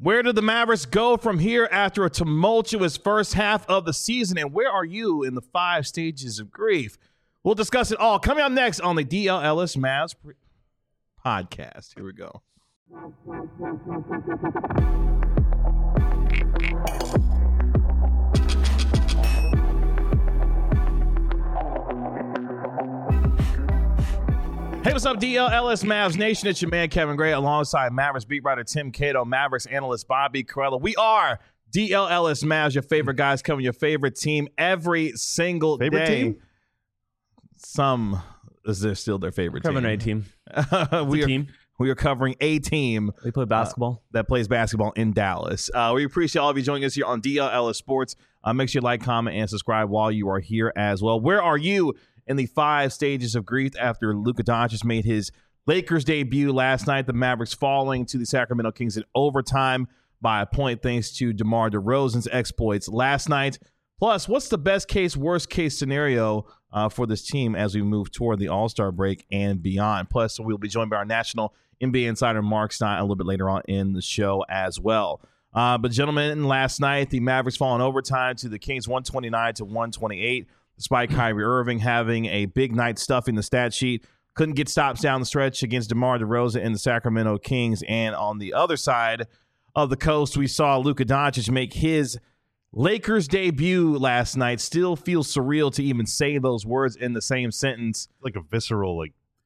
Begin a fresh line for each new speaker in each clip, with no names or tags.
Where did the Mavericks go from here after a tumultuous first half of the season? And where are you in the 5 stages of grief? We'll discuss it all coming up next on the DL Ellis Mavs podcast. Here we go. Hey, what's up, DL Ellis Mavs Nation? It's your man, Kevin Gray, alongside Mavericks beat writer Tim Cato, Mavericks analyst Bobby Carella. We are DL Ellis Mavs, your favorite guys covering your favorite team every single
favorite
day.
Team?
Some is there still their favorite
covering
team.
A team.
We are covering a team.
They play basketball.
That plays basketball in Dallas. We appreciate all of you joining us here on DL Ellis Sports. Make sure you like, comment, and subscribe while you are here as well. Where are you in the 5 stages of grief after Luka Doncic made his Lakers debut last night? The Mavericks falling to the Sacramento Kings in overtime by a point thanks to DeMar DeRozan's exploits last night. Plus, what's the best case, worst case scenario for this team as we move toward the All-Star break and beyond? Plus, we'll be joined by our national NBA insider Mark Stein a little bit later on in the show as well. But gentlemen, last night the Mavericks fall in overtime to the Kings 129-128. Despite Kyrie Irving having a big night stuffing the stat sheet, couldn't get stops down the stretch against DeMar DeRozan and the Sacramento Kings. And on the other side of the coast, we saw Luka Doncic make his Lakers debut last night. Still feels surreal to even say those words in the same sentence.
Like a visceral,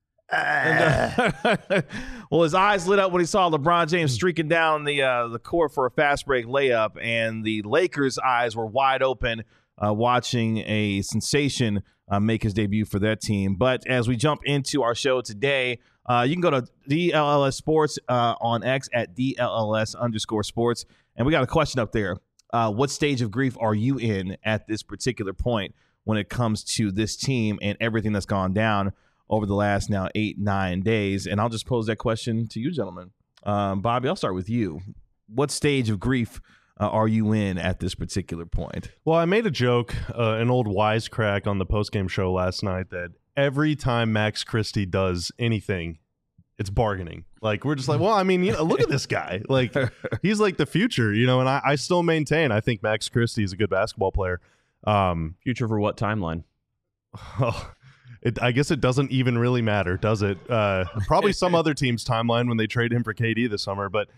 Well, his eyes lit up when he saw LeBron James streaking down the court for a fast break layup, and the Lakers' eyes were wide open watching a sensation make his debut for that team. But as we jump into our show today, you can go to DLLS Sports on X at DLLS_sports. And we got a question up there. What stage of grief are you in at this particular point when it comes to this team and everything that's gone down over the last now 8-9 days? And I'll just pose that question to you, gentlemen. Bobby, I'll start with you. What stage of grief are you in at this particular point?
Well, I made a joke, an old wisecrack on the postgame show last night that every time Max Christie does anything, it's bargaining. Like, we're just like, well, I mean, look at this guy. Like, he's like the future, and I still maintain I think Max Christie is a good basketball player.
Future for what timeline?
I guess it doesn't even really matter, does it? Probably some other team's timeline when they trade him for KD this summer. But,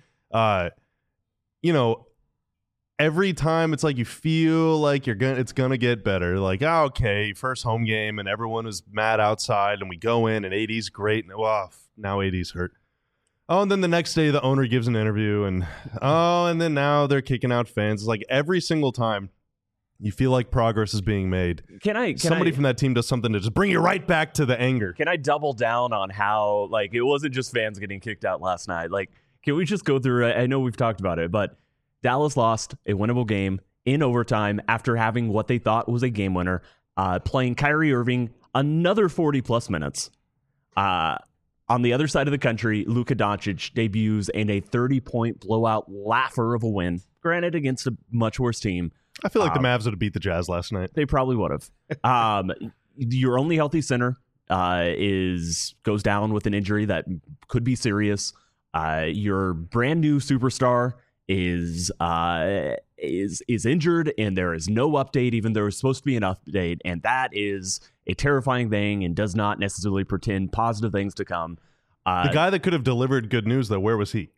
every time it's like you feel like it's gonna get better. Like, okay, first home game and everyone is mad outside and we go in and AD's great and now AD's hurt. Oh, and then the next day the owner gives an interview and then now they're kicking out fans. It's like every single time you feel like progress is being made. Somebody from that team does something to just bring you right back to the anger.
Can I double down on how it wasn't just fans getting kicked out last night? Can we just go through it? I know we've talked about it, but Dallas lost a winnable game in overtime after having what they thought was a game winner, playing Kyrie Irving another 40-plus minutes. On the other side of the country, Luka Doncic debuts in a 30-point blowout laugher of a win, granted against a much worse team.
I feel like the Mavs would have beat the Jazz last night.
They probably would have. Your only healthy center goes down with an injury that could be serious. Your brand new superstar is injured, and there is no update, even though there's supposed to be an update, and that is a terrifying thing and does not necessarily portend positive things to come.
The guy that could have delivered good news, though, where was he?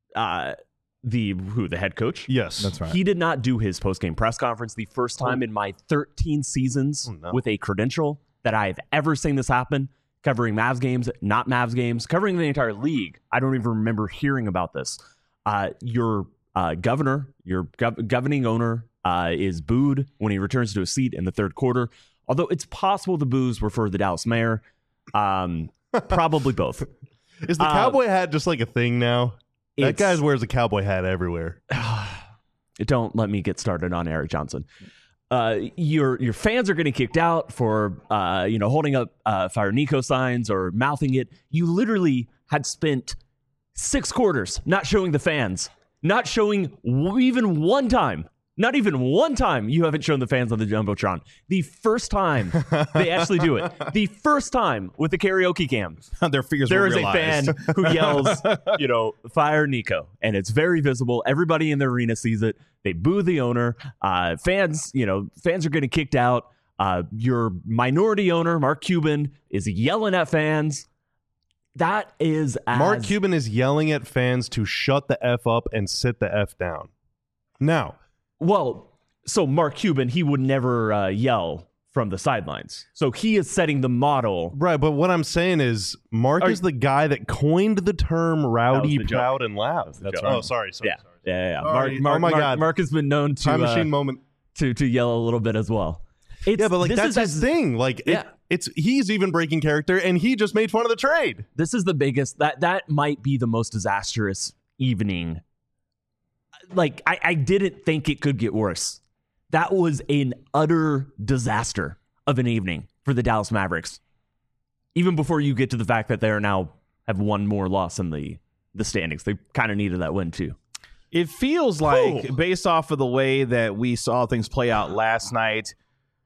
The head coach?
Yes,
that's right. He did not do his post-game press conference. The first time in my 13 seasons with a credential that I have ever seen this happen, covering Mavs games, not Mavs games, covering the entire league. I don't even remember hearing about this. Your governor, your governing owner, is booed when he returns to a seat in the third quarter. Although it's possible the boos were for the Dallas mayor. Probably both.
Is the cowboy hat just like a thing now? That guy wears a cowboy hat everywhere.
Don't let me get started on Eric Johnson. Your fans are getting kicked out for holding up Fire Nico signs or mouthing it. You literally had spent 6 quarters not showing the fans, not showing even one time Not even one time you haven't shown the fans on the Jumbotron. The first time they actually do it. The first time with the karaoke cam.
Their fears
there
were
is
realized.
a fan who yells, fire Nico. And it's very visible. Everybody in the arena sees it. They boo the owner. Fans are getting kicked out. Your minority owner, Mark Cuban, is yelling at fans. That is
Mark Cuban is yelling at fans to shut the F up and sit the F down. Now,
well, so Mark Cuban, he would never yell from the sidelines. So he is setting the model.
Right, but what I'm saying is Mark is the guy that coined the term rowdy, proud, and loud.
That's
right.
right.
Oh, sorry.
Yeah.
Sorry.
God. Mark has been known to
time machine moment
to yell a little bit as well.
But like that's his thing. Like he's even breaking character, and he just made fun of the trade.
This is the biggest. That might be the most disastrous evening. Like I didn't think it could get worse. That was an utter disaster of an evening for the Dallas Mavericks. Even before you get to the fact that they are now have one more loss in the standings, they kind of needed that win too.
It feels like, based off of the way that we saw things play out last night,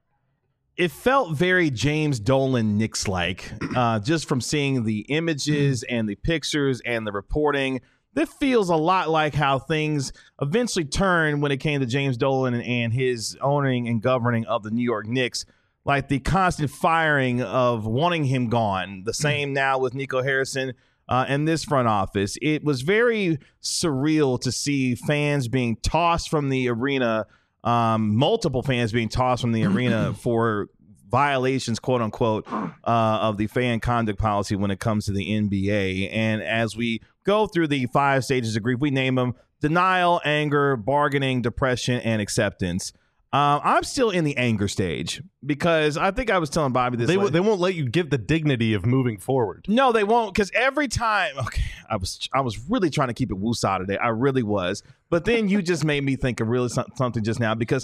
it felt very James Dolan Knicks-like, just from seeing the images and the pictures and the reporting. This feels a lot like how things eventually turned when it came to James Dolan and his owning and governing of the New York Knicks, like the constant firing of wanting him gone. The same now with Nico Harrison and this front office. It was very surreal to see fans being tossed from the arena, multiple fans being tossed from the arena for violations, quote unquote, of the fan conduct policy when it comes to the NBA. And as we go through the 5 stages of grief, we name them: denial, anger, bargaining, depression, and acceptance. I'm still in the anger stage because I think I was telling Bobby this.
They won't let you give the dignity of moving forward.
No, they won't, because every time. Okay, I was really trying to keep it woosah today. I really was, but then you just made me think of really something just now, because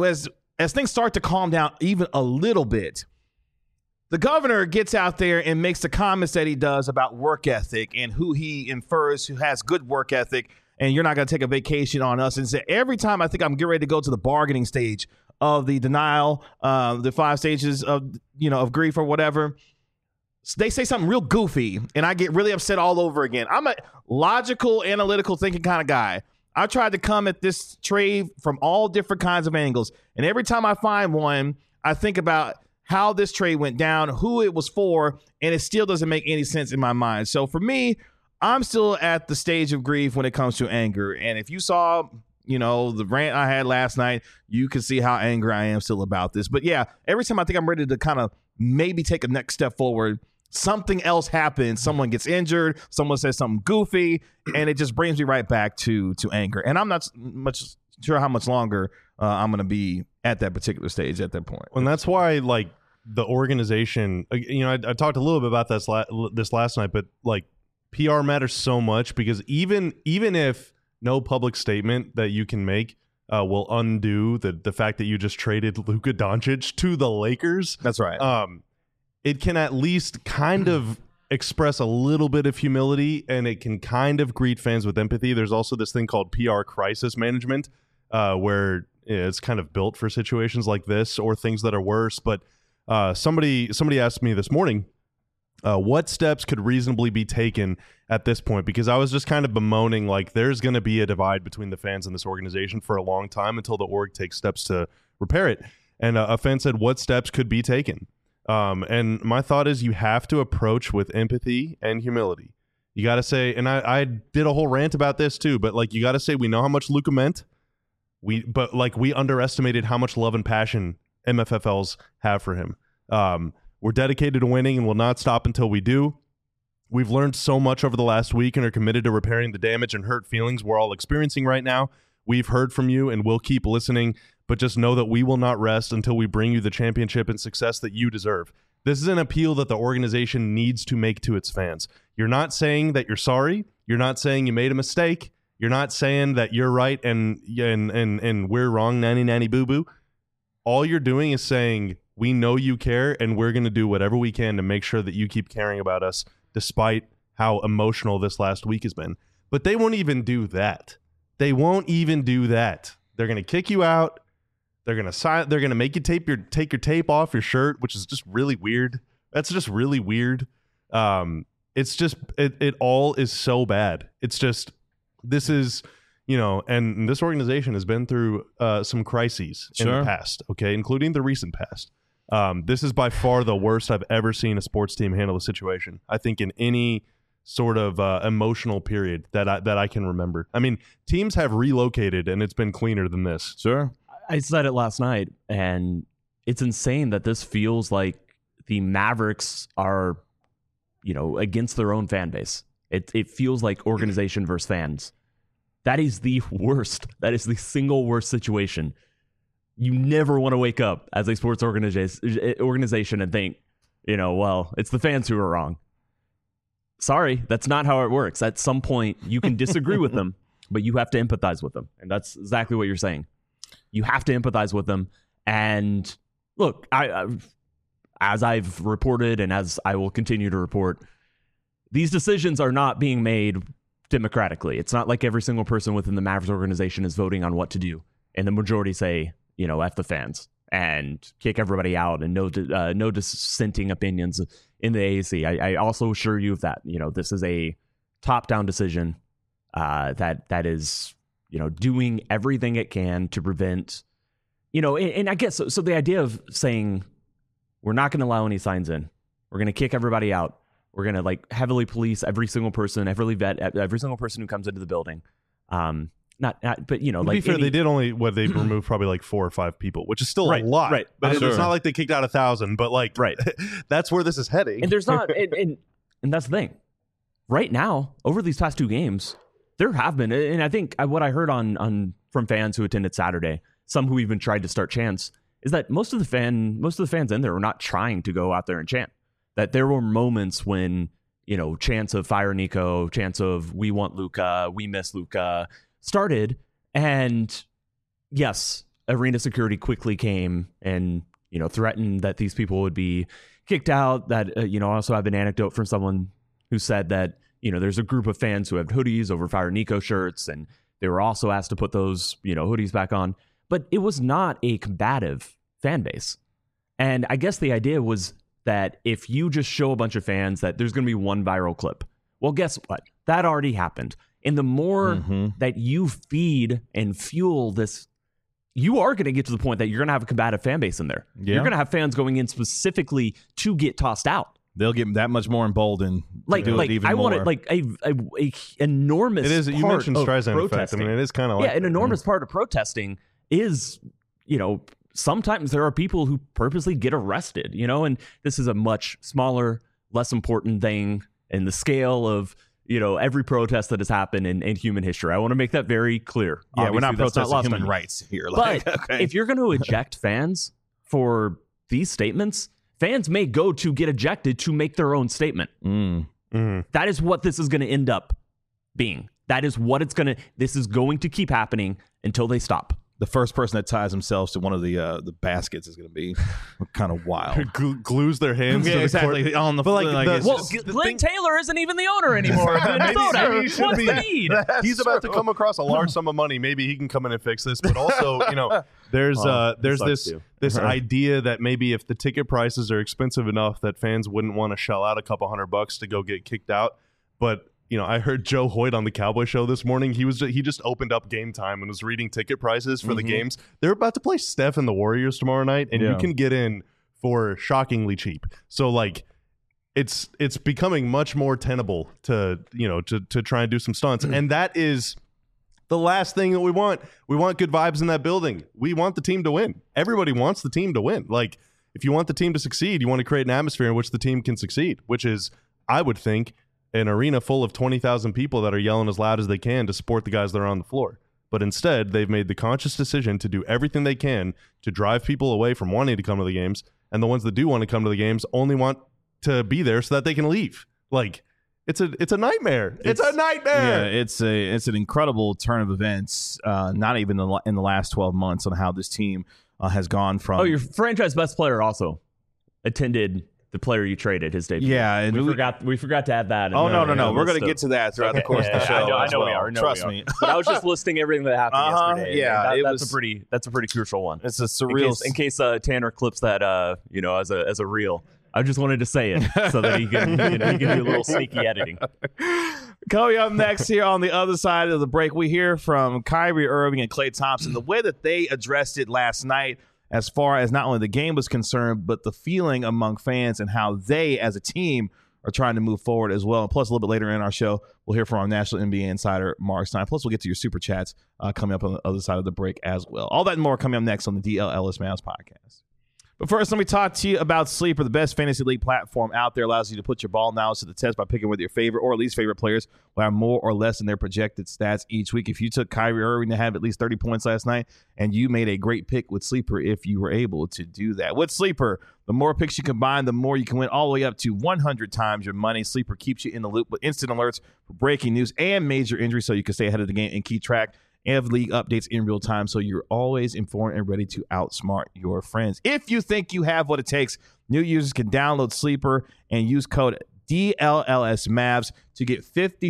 as things start to calm down even a little bit, the governor gets out there and makes the comments that he does about work ethic and who he infers who has good work ethic, and you're not going to take a vacation on us. And so every time I think I'm getting ready to go to the bargaining stage of the denial, the 5 stages of grief or whatever, they say something real goofy, and I get really upset all over again. I'm a logical, analytical thinking kind of guy. I tried to come at this trade from all different kinds of angles, and every time I find one, I think about how this trade went down, who it was for, and it still doesn't make any sense in my mind. So for me, I'm still at the stage of grief when it comes to anger. And if you saw, the rant I had last night, you can see how angry I am still about this. But yeah, every time I think I'm ready to kind of maybe take a next step forward, something else happens. Someone gets injured, someone says something goofy, and it just brings me right back to anger. And I'm not much sure how much longer I'm going to be at that particular stage at that point.
And that's why, like, the organization, I talked a little bit about this last night, but like PR matters so much, because even if no public statement that you can make will undo the fact that you just traded Luka Doncic to the Lakers.
That's right.
It can at least kind of express a little bit of humility, and it can kind of greet fans with empathy. There's also this thing called PR crisis management, where it's kind of built for situations like this or things that are worse. But somebody asked me this morning, what steps could reasonably be taken at this point? Because I was just kind of bemoaning, like, there's going to be a divide between the fans and this organization for a long time until the org takes steps to repair it. And a fan said, what steps could be taken? And my thought is, you have to approach with empathy and humility. You got to say, and I did a whole rant about this too, but like, you got to say, we know how much Luka meant. But we underestimated how much love and passion MFFLs have for him. We're dedicated to winning and will not stop until we do. We've learned so much over the last week and are committed to repairing the damage and hurt feelings we're all experiencing right now. We've heard from you and we'll keep listening, but just know that we will not rest until we bring you the championship and success that you deserve. This is an appeal that the organization needs to make to its fans. You're not saying that you're sorry. You're not saying you made a mistake. You're not saying that you're right and we're wrong, nanny boo-boo. All you're doing is saying, we know you care, and we're going to do whatever we can to make sure that you keep caring about us, despite how emotional this last week has been. But they won't even do that. They won't even do that. They're going to kick you out. They're going to make you take your tape off your shirt, which is just really weird. That's just really weird. It's just it all is so bad. It's just this is, and this organization has been through some crises in the past, okay, including the recent past. This is by far the worst I've ever seen a sports team handle a situation, I think, in any sort of emotional period that I can remember. I mean, teams have relocated and it's been cleaner than this.
Sure.
I said it last night, and it's insane that this feels like the Mavericks are, against their own fan base. It feels like organization versus fans. That is the worst. That is the single worst situation. You never want to wake up as a sports organization and think, well, it's the fans who are wrong. Sorry, that's not how it works. At some point, you can disagree with them, but you have to empathize with them. And that's exactly what you're saying. You have to empathize with them. And look, as I've reported and as I will continue to report, these decisions are not being made democratically. It's not like every single person within the Mavericks organization is voting on what to do. And the majority say, F the fans and kick everybody out and no dissenting opinions in the AAC. I also assure you of that. This is a top-down decision that is, doing everything it can to prevent, and I guess, so the idea of saying we're not going to allow any signs in, we're going to kick everybody out, we're going to heavily police every single person, heavily vet every single person who comes into the building. But to
be fair, they did they removed probably 4 or 5 people, which is still a lot.
Right.
But it's not like they kicked out 1,000, but that's where this is heading.
And there's not, and that's the thing. Right now, over these past 2 games, there have been, and I think what I heard from fans who attended Saturday, some who even tried to start chants, is that most of the fans in there were not trying to go out there and chant. That there were moments when, chants of fire Nico, chants of we want Luka, we miss Luka started, and yes, arena security quickly came and threatened that these people would be kicked out. That I also have an anecdote from someone who said that there's a group of fans who have hoodies over Fire Nico shirts, and they were also asked to put those hoodies back on. But it was not a combative fan base, and I guess the idea was that if you just show a bunch of fans that there's going to be one viral clip, well, guess what? That already happened. And the more that you feed and fuel this, you are going to get to the point that you're going to have a combative fan base in there. Yeah. You're going to have fans going in specifically to get tossed out.
They'll get that much more emboldened.
Want it a enormous.
It is. You mentioned Streisand effect. I mean, it is kind of
an enormous part of protesting is sometimes there are people who purposely get arrested. And this is a much smaller, less important thing in the scale of every protest that has happened in human history. I want to make that very clear.
Yeah, obviously, we're not protesting human rights here.
But if you're going to eject fans for these statements, fans may go to get ejected to make their own statement. That is what this is going to end up being. That is what this is going to keep happening until they stop.
The first person that ties themselves to one of the baskets is going to be kind of wild.
Glues their hands to the
exactly
court.
On the
Glenn Taylor isn't even the owner anymore. Maybe he should be.
He's about to come across a large sum of money. Maybe he can come in and fix this. But also, there's this idea that maybe if the ticket prices are expensive enough that fans wouldn't want to shell out a couple $100 to go get kicked out. But I heard Joe Hoyt on the Cowboy Show this morning. He just opened up Game Time and was reading ticket prices for the games. They're about to play Steph and the Warriors tomorrow night, and you can get in for shockingly cheap. So it's becoming much more tenable to try and do some stunts, and that is the last thing that we want. We want good vibes in that building. We want the team to win. Everybody wants the team to win. If you want the team to succeed, you want to create an atmosphere in which the team can succeed, which is, I would think, an arena full of 20,000 people that are yelling as loud as they can to support the guys that are on the floor. But instead, they've made the conscious decision to do everything they can to drive people away from wanting to come to the games, and the ones that do want to come to the games only want to be there so that they can leave. It's a nightmare. It's a nightmare.
Yeah, it's an incredible turn of events. Not even in the last 12 months on how this team has gone from.
Oh, your franchise best player also attended the player you traded, his debut.
Yeah, and
we forgot to add that.
Oh, no. We're going to get to that throughout the course of the show.
I know we are.
Trust me.
But I was just listing everything that happened yesterday.
Yeah,
that's a pretty crucial one.
It's a surreal.
In case Tanner clips that, as a reel. I just wanted to say it so that he can do a little sneaky editing.
Coming up next here on the other side of the break, we hear from Kyrie Irving and Klay Thompson, the way that they addressed it last night as far as not only the game was concerned, but the feeling among fans and how they as a team are trying to move forward as well. And plus, a little bit later in our show, we'll hear from our national NBA insider, Mark Stein. Plus, we'll get to your super chats coming up on the other side of the break as well. All that and more coming up next on the DL Ellis Mavs podcast. But first, let me talk to you about Sleeper, the best fantasy league platform out there. Allows you to put your ball knowledge to the test by picking with your favorite or least favorite players who have more or less in their projected stats each week. If you took Kyrie Irving to have at least 30 points last night, and you made a great pick with Sleeper if you were able to do that. With Sleeper, the more picks you combine, the more you can win, all the way up to 100 times your money. Sleeper keeps you in the loop with instant alerts for breaking news and major injuries so you can stay ahead of the game and keep track of league updates in real time, so you're always informed and ready to outsmart your friends. If you think you have what it takes, new users can download Sleeper and use code DLLSMavs to get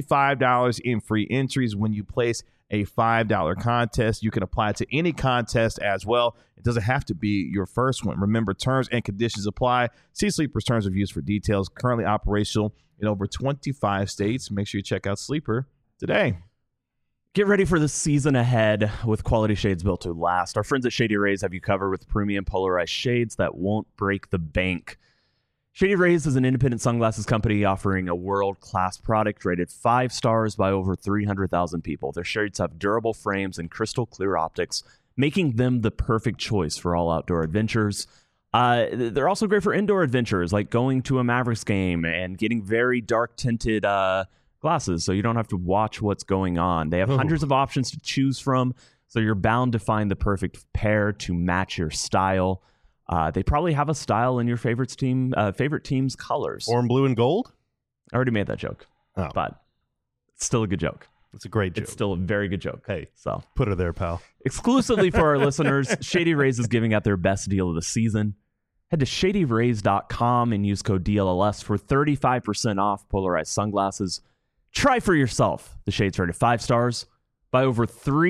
$55 in free entries when you place a $5 contest. You can apply to any contest as well. It doesn't have to be your first one. Remember, terms and conditions apply. See Sleeper's terms of use for details. Currently operational in over 25 states. Make sure you check out Sleeper today.
Get ready for the season ahead with quality shades built to last. Our friends at Shady Rays have you covered with premium polarized shades that won't break the bank. Shady Rays is an independent sunglasses company offering a world-class product rated 5 stars by over 300,000 people. Their shades have durable frames and crystal clear optics, making them the perfect choice for all outdoor adventures. They're also great for indoor adventures, like going to a Mavericks game and getting very dark-tinted glasses, so you don't have to watch what's going on. They have hundreds of options to choose from, so you're bound to find the perfect pair to match your style. They probably have a style in your favorite team's colors.
Orange, blue, and gold?
I already made that joke, but it's still a good joke.
It's a great joke.
It's still a very good joke.
Hey,
so
put her there, pal.
Exclusively for our listeners, Shady Rays is giving out their best deal of the season. Head to shadyrays.com and use code DLLS for 35% off polarized sunglasses. Try for yourself. The shades rated 5 stars by over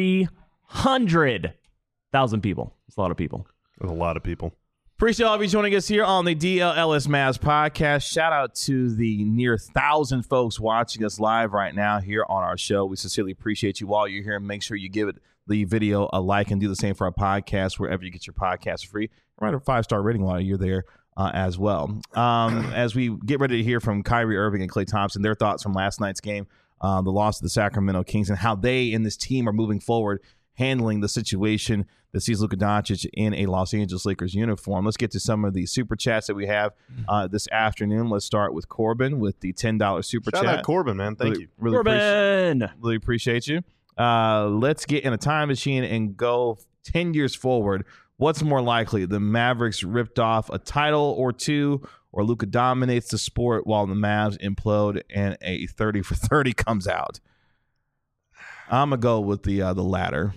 300,000 people. It's a lot of people.
There's a lot of people.
Appreciate all of you joining us here on the DLLS Mavs podcast. Shout out to the near 1,000 folks watching us live right now here on our show. We sincerely appreciate you while you're here. Make sure you give the video a like and do the same for our podcast wherever you get your podcast free. Write a 5-star rating while you're there as well. As we get ready to hear from Kyrie Irving and Klay Thompson, their thoughts from last night's game, the loss of the Sacramento Kings, and how they and this team are moving forward, handling the situation that sees Luka Doncic in a Los Angeles Lakers uniform. Let's get to some of the super chats that we have this afternoon. Let's start with Corbin with the $10 super chat.
Shout out Corbin, man. Thank you.
Corbin!
Really appreciate you. Let's get in a time machine and go 10 years forward. What's more likely? The Mavericks ripped off a title or two, or Luka dominates the sport while the Mavs implode and a 30 for 30 comes out? I'm going to go with the latter.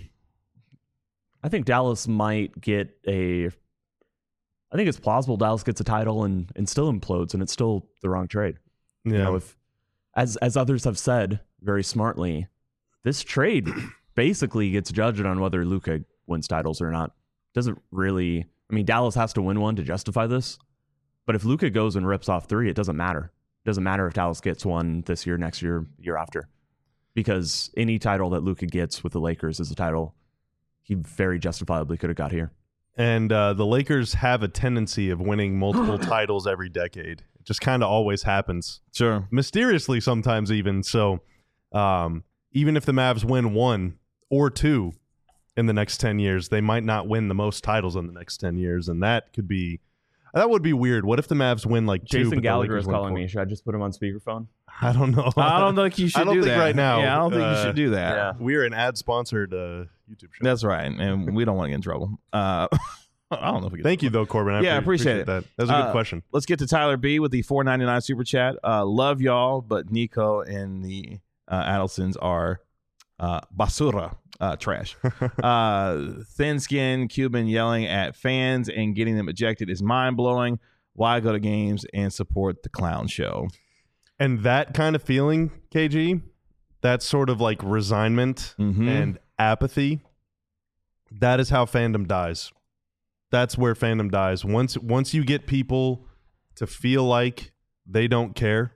I think Dallas might get I think it's plausible Dallas gets a title and still implodes, and it's still the wrong trade.
Yeah.
You know, if, as others have said very smartly, this trade basically gets judged on whether Luka wins titles or not. Doesn't really, I mean, Dallas has to win one to justify this, but if Luka goes and rips off 3, it doesn't matter. It doesn't matter if Dallas gets one this year, next year, year after, because any title that Luka gets with the Lakers is a title he very justifiably could have got here.
And the Lakers have a tendency of winning multiple titles every decade. It just kind of always happens.
Sure.
Mysteriously sometimes even. So even if the Mavs win 1 or 2 in the next 10 years, they might not win the most titles in the next 10 years. And that would be weird. What if the Mavs win like 2?
Jason Gallagher is calling me. Should I just put him on speakerphone?
I don't know.
I don't think you should do that.
I don't think right now.
Yeah, I don't think you should do that.
Yeah.
We're an ad-sponsored YouTube show.
That's right. And we don't want to get in trouble. I don't know if we get
Thank you, though, Corbin.
I appreciate it.
That was a good question.
Let's get to Tyler B with the $4.99 super chat. Love y'all, but Nico and the Adelsons are basura, trash. Thin-skinned Cuban yelling at fans and getting them ejected is mind-blowing. why go to games and support the clown show?
And that kind of feeling, KG, that sort of like resignment and apathy, that is how fandom dies. That's where fandom dies. Once you get people to feel like they don't care,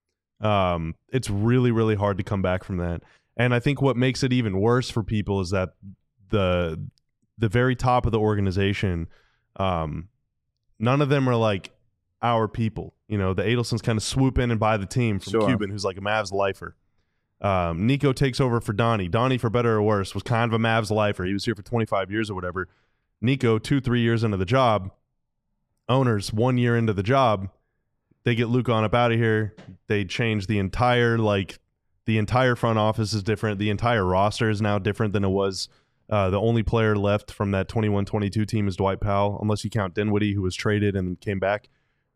it's really, really hard to come back from that. And I think what makes it even worse for people is that the very top of the organization, none of them are like our people. You know, the Adelsons kind of swoop in and buy the team from Cuban, who's like a Mavs lifer. Nico takes over for Donnie. Donnie, for better or worse, was kind of a Mavs lifer. He was here for 25 years or whatever. Nico, 2-3 years into the job. Owners, 1 year into the job. They get Luka on up out of here. They change the entire front office is different. The entire roster is now different than it was. The only player left from that 21-22 team is Dwight Powell, unless you count Dinwiddie, who was traded and came back.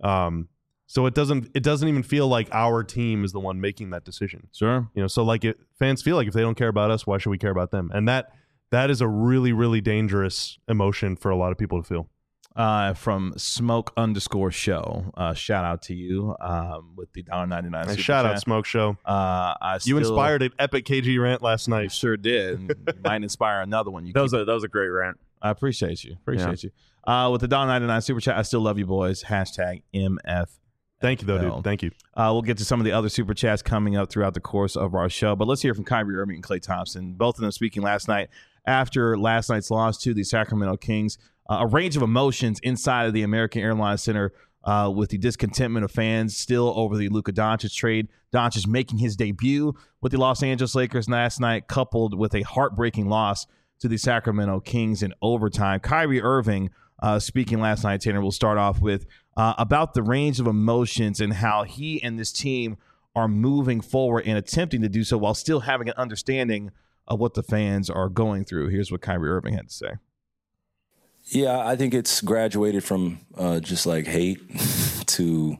So it doesn't even feel like our team is the one making that decision.
Sure.
You know, so like fans feel like if they don't care about us, why should we care about them? And that is a really, really dangerous emotion for a lot of people to feel.
From Smoke_show. Shout out to you with the $1.99.
Hey, shout out Smoke Show. You inspired an epic KG rant last night.
You sure did. You might inspire another one.
That was a great rant.
I appreciate you. You. With the $1.99 super chat, I still love you boys. #MF.
Thank you, though, dude. Thank you.
We'll get to some of the other super chats coming up throughout the course of our show. But let's hear from Kyrie Irving and Klay Thompson, both of them speaking last night after last night's loss to the Sacramento Kings. A range of emotions inside of the American Airlines Center with the discontentment of fans still over the Luka Doncic trade. Doncic making his debut with the Los Angeles Lakers last night, coupled with a heartbreaking loss to the Sacramento Kings in overtime. Kyrie Irving speaking last night, Tanner, we'll start off with about the range of emotions and how he and this team are moving forward and attempting to do so while still having an understanding of what the fans are going through. Here's what Kyrie Irving had to say.
Yeah, I think it's graduated from just like hate to,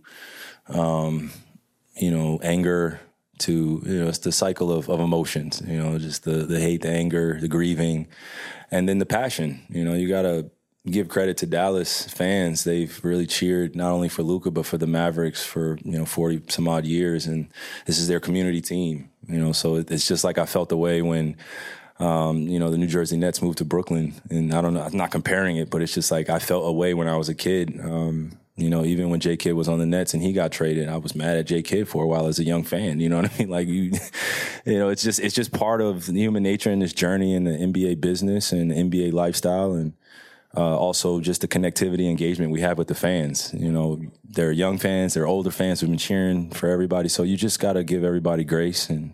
anger to, it's the cycle of emotions, just the hate, the anger, the grieving, and then the passion. You got to give credit to Dallas fans. They've really cheered not only for Luka, but for the Mavericks for, 40 some odd years. And this is their community team, so it's just like I felt the way when, the New Jersey Nets moved to Brooklyn. And I don't know, I'm not comparing it, but it's just like I felt a way when I was a kid. Even when J Kidd was on the Nets and he got traded, I was mad at J Kidd for a while as a young fan. You know what I mean? Like it's just part of human nature in this journey in the NBA business and the NBA lifestyle. And also just the connectivity engagement we have with the fans. They're young fans, they're older fans who've been cheering for everybody. So you just got to give everybody grace. And,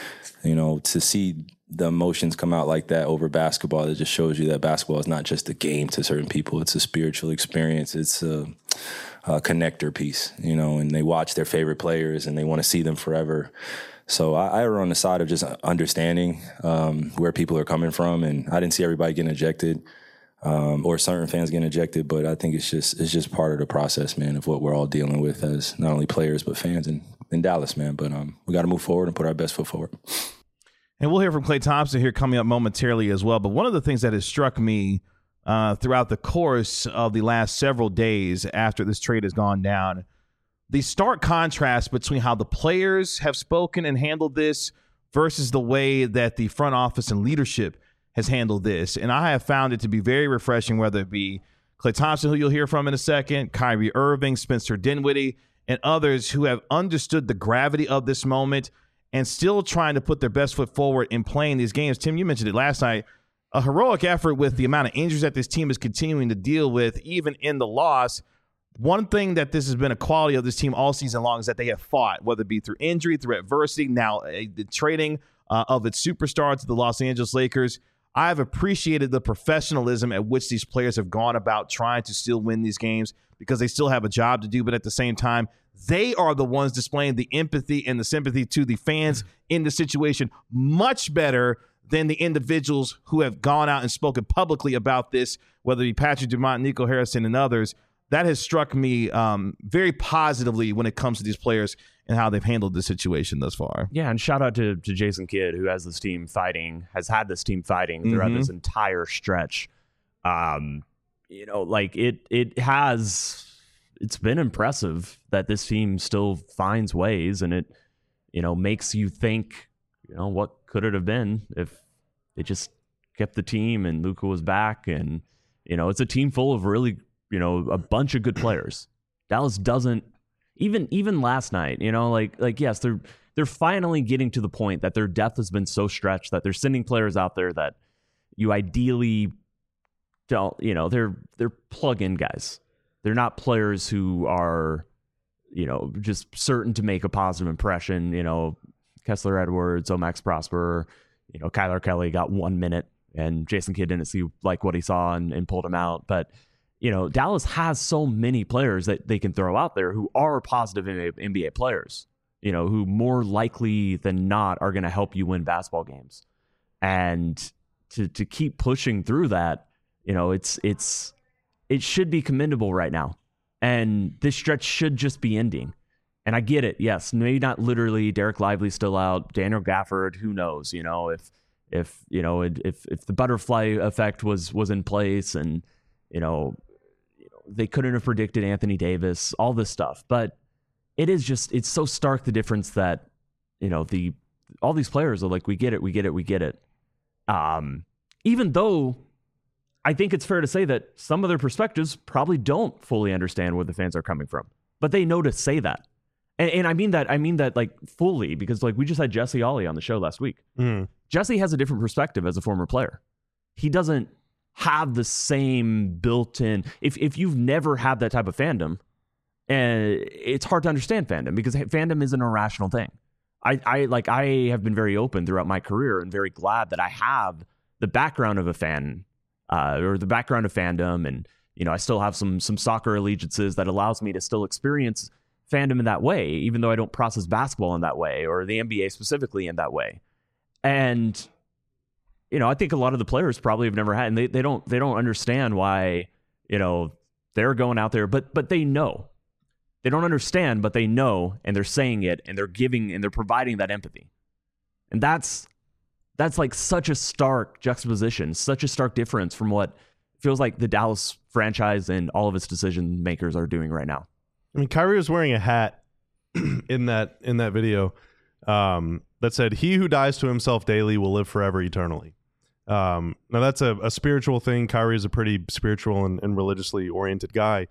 to see the emotions come out like that over basketball, it just shows you that basketball is not just a game to certain people. It's a spiritual experience. It's a connector piece, and they watch their favorite players and they want to see them forever. So I err on the side of just understanding where people are coming from. And I didn't see everybody getting ejected. Or certain fans getting ejected, but I think it's just part of the process, man, of what we're all dealing with as not only players but fans in Dallas, man. But we got to move forward and put our best foot forward.
And we'll hear from Klay Thompson here coming up momentarily as well. But one of the things that has struck me throughout the course of the last several days after this trade has gone down, the stark contrast between how the players have spoken and handled this versus the way that the front office and leadership has handled this. And I have found it to be very refreshing, whether it be Klay Thompson, who you'll hear from in a second, Kyrie Irving, Spencer Dinwiddie, and others who have understood the gravity of this moment and still trying to put their best foot forward in playing these games. Tim, you mentioned it last night, a heroic effort with the amount of injuries that this team is continuing to deal with, even in the loss. One thing that this has been a quality of this team all season long is that they have fought, whether it be through injury, through adversity, now the trading of its superstar to the Los Angeles Lakers. I've appreciated the professionalism at which these players have gone about trying to still win these games because they still have a job to do, but at the same time, they are the ones displaying the empathy and the sympathy to the fans in the situation much better than the individuals who have gone out and spoken publicly about this, whether it be Patrick Dumont, Nico Harrison, and others. That has struck me very positively when it comes to these players and how they've handled the situation thus far.
Yeah, and shout out to Jason Kidd, who has had this team fighting throughout this entire stretch. It it's been impressive that this team still finds ways, and it, makes you think, what could it have been if they just kept the team and Luka was back, and it's a team full of really, a bunch of good players. Dallas doesn't even last night, yes, they're finally getting to the point that their depth has been so stretched that they're sending players out there that you ideally don't, they're plug-in guys. They're not players who are, just certain to make a positive impression. Kessler Edwards, Max Prosper, Kyler Kelly got 1 minute, and Jason Kidd didn't see what he saw and pulled him out. But, Dallas has so many players that they can throw out there who are positive NBA players, who more likely than not are going to help you win basketball games. And to keep pushing through that, it should be commendable right now. And this stretch should just be ending. And I get it. Yes, maybe not literally. Derek Lively's still out. Daniel Gafford, who knows? If the butterfly effect was in place, and they couldn't have predicted Anthony Davis, all this stuff. But it's so stark, the difference that all these players are like, we get it. Even though I think it's fair to say that some of their perspectives probably don't fully understand where the fans are coming from, but they know to say that. And I mean that like fully, because we just had Jesse Ollie on the show last week. Jesse has a different perspective as a former player. He doesn't have the same built-in, if you've never had that type of fandom, it's hard to understand fandom, because fandom is an irrational thing. I have been very open throughout my career and very glad that I have the background of a fan, or the background of fandom. And, I still have some soccer allegiances that allows me to still experience fandom in that way, even though I don't process basketball in that way, or the NBA specifically in that way. And, I think a lot of the players probably have never had, and they don't understand why, they're going out there, but they know. They don't understand, but they know, and they're saying it, and they're giving, and they're providing that empathy. And that's like such a stark juxtaposition, such a stark difference from what feels like the Dallas franchise and all of its decision makers are doing right now.
I mean, Kyrie was wearing a hat in that video that said, "He who dies to himself daily will live forever eternally." Now that's a spiritual thing. Kyrie is a pretty spiritual and religiously oriented guy.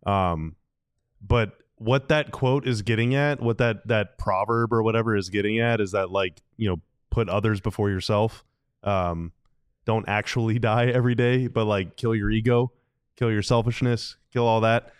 But what that quote is getting at, what that proverb or whatever is getting at, is that, put others before yourself. Don't actually die every day, but kill your ego, kill your selfishness, kill all that.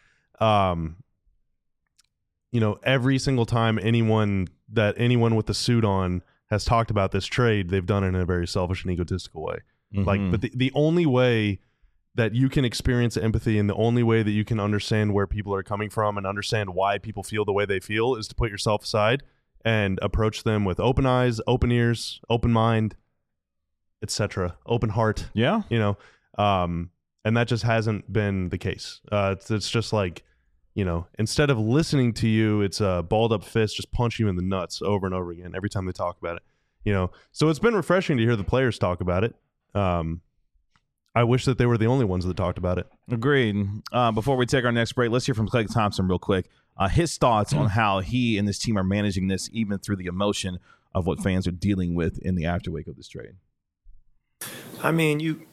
Every single time anyone with the suit on has talked about this trade, they've done it in a very selfish and egotistical way.
Mm-hmm.
But the only way that you can experience empathy, and the only way that you can understand where people are coming from and understand why people feel the way they feel, is to put yourself aside and approach them with open eyes, open ears, open mind, etc., open heart.
Yeah.
And that just hasn't been the case. It's just instead of listening to you, it's a balled up fist just punch you in the nuts over and over again every time they talk about it. So it's been refreshing to hear the players talk about it. I wish that they were the only ones that talked about it.
Agreed. Before we take our next break, let's hear from Klay Thompson real quick. His thoughts on how he and this team are managing this, even through the emotion of what fans are dealing with in the afterwake of this trade.
I mean, you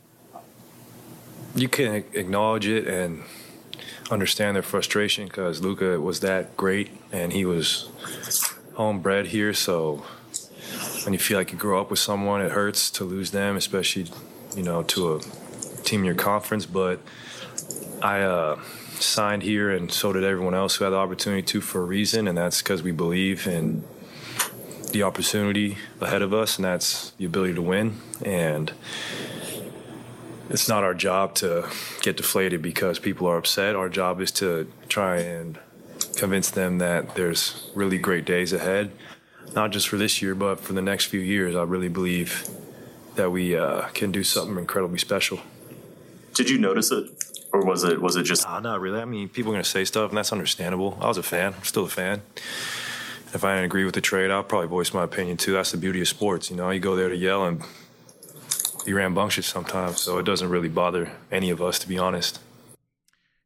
can acknowledge it and understand their frustration, because Luka was that great and he was homebred here. So when you feel like you grow up with someone, it hurts to lose them, especially, to a team in your conference. But I signed here, and so did everyone else who had the opportunity to, for a reason, and that's because we believe in the opportunity ahead of us, and that's the ability to win. And it's not our job to get deflated because people are upset. Our job is to try and convince them that there's really great days ahead, not just for this year, but for the next few years. I really believe that we can do something incredibly special.
Did you notice it, or was it just?
Not really. I mean, people are going to say stuff, and that's understandable. I was a fan. I'm still a fan. If I didn't agree with the trade, I'll probably voice my opinion too. That's the beauty of sports. You go there to yell and be rambunctious sometimes, so it doesn't really bother any of us, to be honest.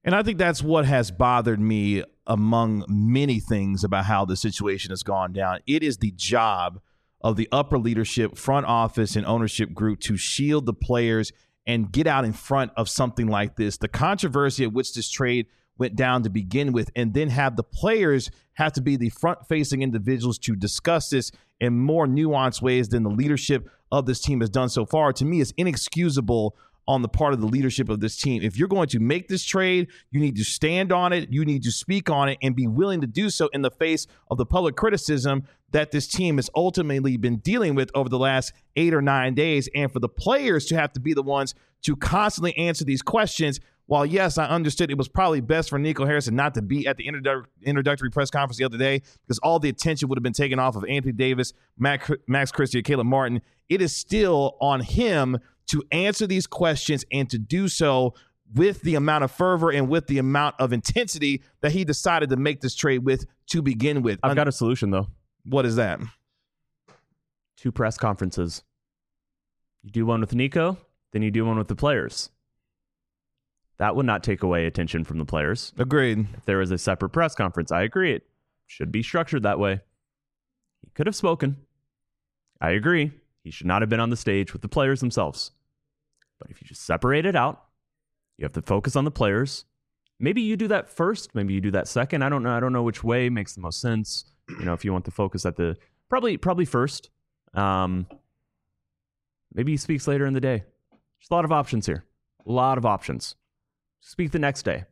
And I think that's what has bothered me among many things about how the situation has gone down. It is the job of the upper leadership, front office, and ownership group to shield the players and get out in front of something like this. The controversy at which this trade went down to begin with, and then have the players have to be the front-facing individuals to discuss this in more nuanced ways than the leadership of this team has done so far, to me is inexcusable on the part of the leadership of this team. If you're going to make this trade, you need to stand on it, you need to speak on it, and be willing to do so in the face of the public criticism that this team has ultimately been dealing with over the last 8 or 9 days. And for the players to have to be the ones to constantly answer these questions, while yes, I understood it was probably best for Nico Harrison not to be at the introductory press conference the other day because all the attention would have been taken off of Anthony Davis, Max Christie, and Caleb Martin, it is still on him to answer these questions and to do so with the amount of fervor and with the amount of intensity that he decided to make this trade with to begin with.
I've got a solution, though.
What is that?
2 press conferences. You do one with Nico, then you do one with the players. That would not take away attention from the players.
Agreed.
If there was a separate press conference, I agree. It should be structured that way. He could have spoken. I agree. He should not have been on the stage with the players themselves. But if you just separate it out, you have to focus on the players. Maybe you do that first. Maybe you do that second. I don't know. I don't know which way makes the most sense. You know, if you want to focus at the probably first. Maybe he speaks later in the day. There's a lot of options here. A lot of options. Speak the next day.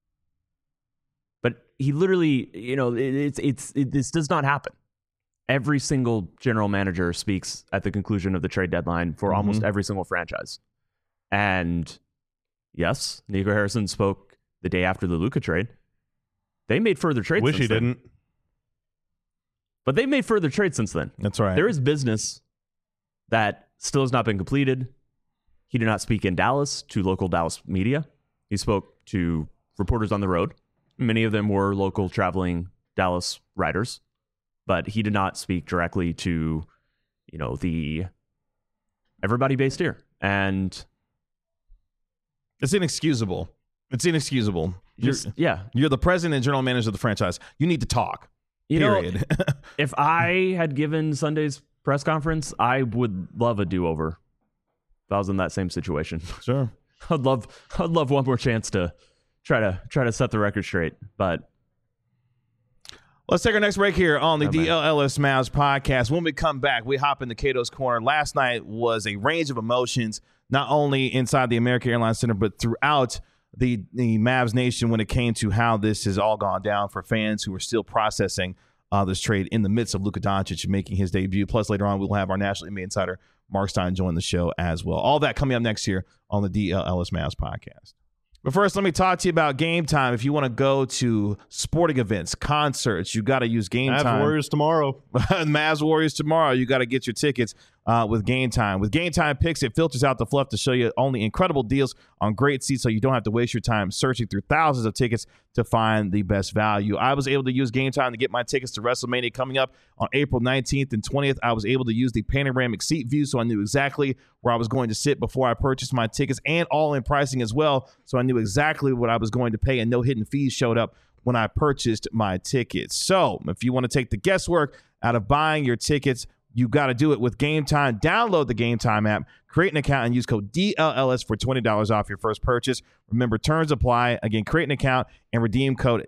But he literally, you know, this does not happen. Every single general manager speaks at the conclusion of the trade deadline for almost every single franchise. And yes, Nico Harrison spoke the day after the Luka trade. They made further trades
Wish
since
he
then.
didn't.
But they made further trades since then.
That's right.
There is business that still has not been completed. He did not speak in Dallas to local Dallas media. He spoke to reporters on the road. Many of them were local traveling Dallas writers. But he did not speak directly to, you know, the everybody based here. And
it's inexcusable. It's inexcusable. You're the president and general manager of the franchise. You need to talk. Period.
You know, if I had given Sunday's press conference, I would love a do-over. If I was in that same situation.
Sure.
I'd love one more chance to try to set the record straight. But
let's take our next break here on the DLLS Mavs podcast. When we come back, we hop into Cato's Corner. Last night was a range of emotions, not only inside the American Airlines Center, but throughout the Mavs Nation when it came to how this has all gone down for fans who are still processing this trade in the midst of Luka Doncic making his debut. Plus, later on, we'll have our national NBA insider, Mark Stein, join the show as well. All that coming up next year on the DLLS Mavs podcast. But first, let me talk to you about Game Time. If you want to go to sporting events, concerts, you got to use Game Time.
Mavs Warriors tomorrow.
Mavs Warriors tomorrow. You got to get your tickets with Game Time. With Game Time Picks, it filters out the fluff to show you only incredible deals on great seats so you don't have to waste your time searching through thousands of tickets to find the best value. I was able to use Game Time to get my tickets to WrestleMania coming up on April 19th and 20th. I was able to use the panoramic seat view so I knew exactly where I was going to sit before I purchased my tickets, and all-in pricing as well, so I knew exactly what I was going to pay, and no hidden fees showed up when I purchased my tickets. So if you want to take the guesswork out of buying your tickets, you got to do it with Game Time. Download the Game Time app, create an account, and use code DLLS for $20 off your first purchase. Remember, terms apply. Again, create an account and redeem code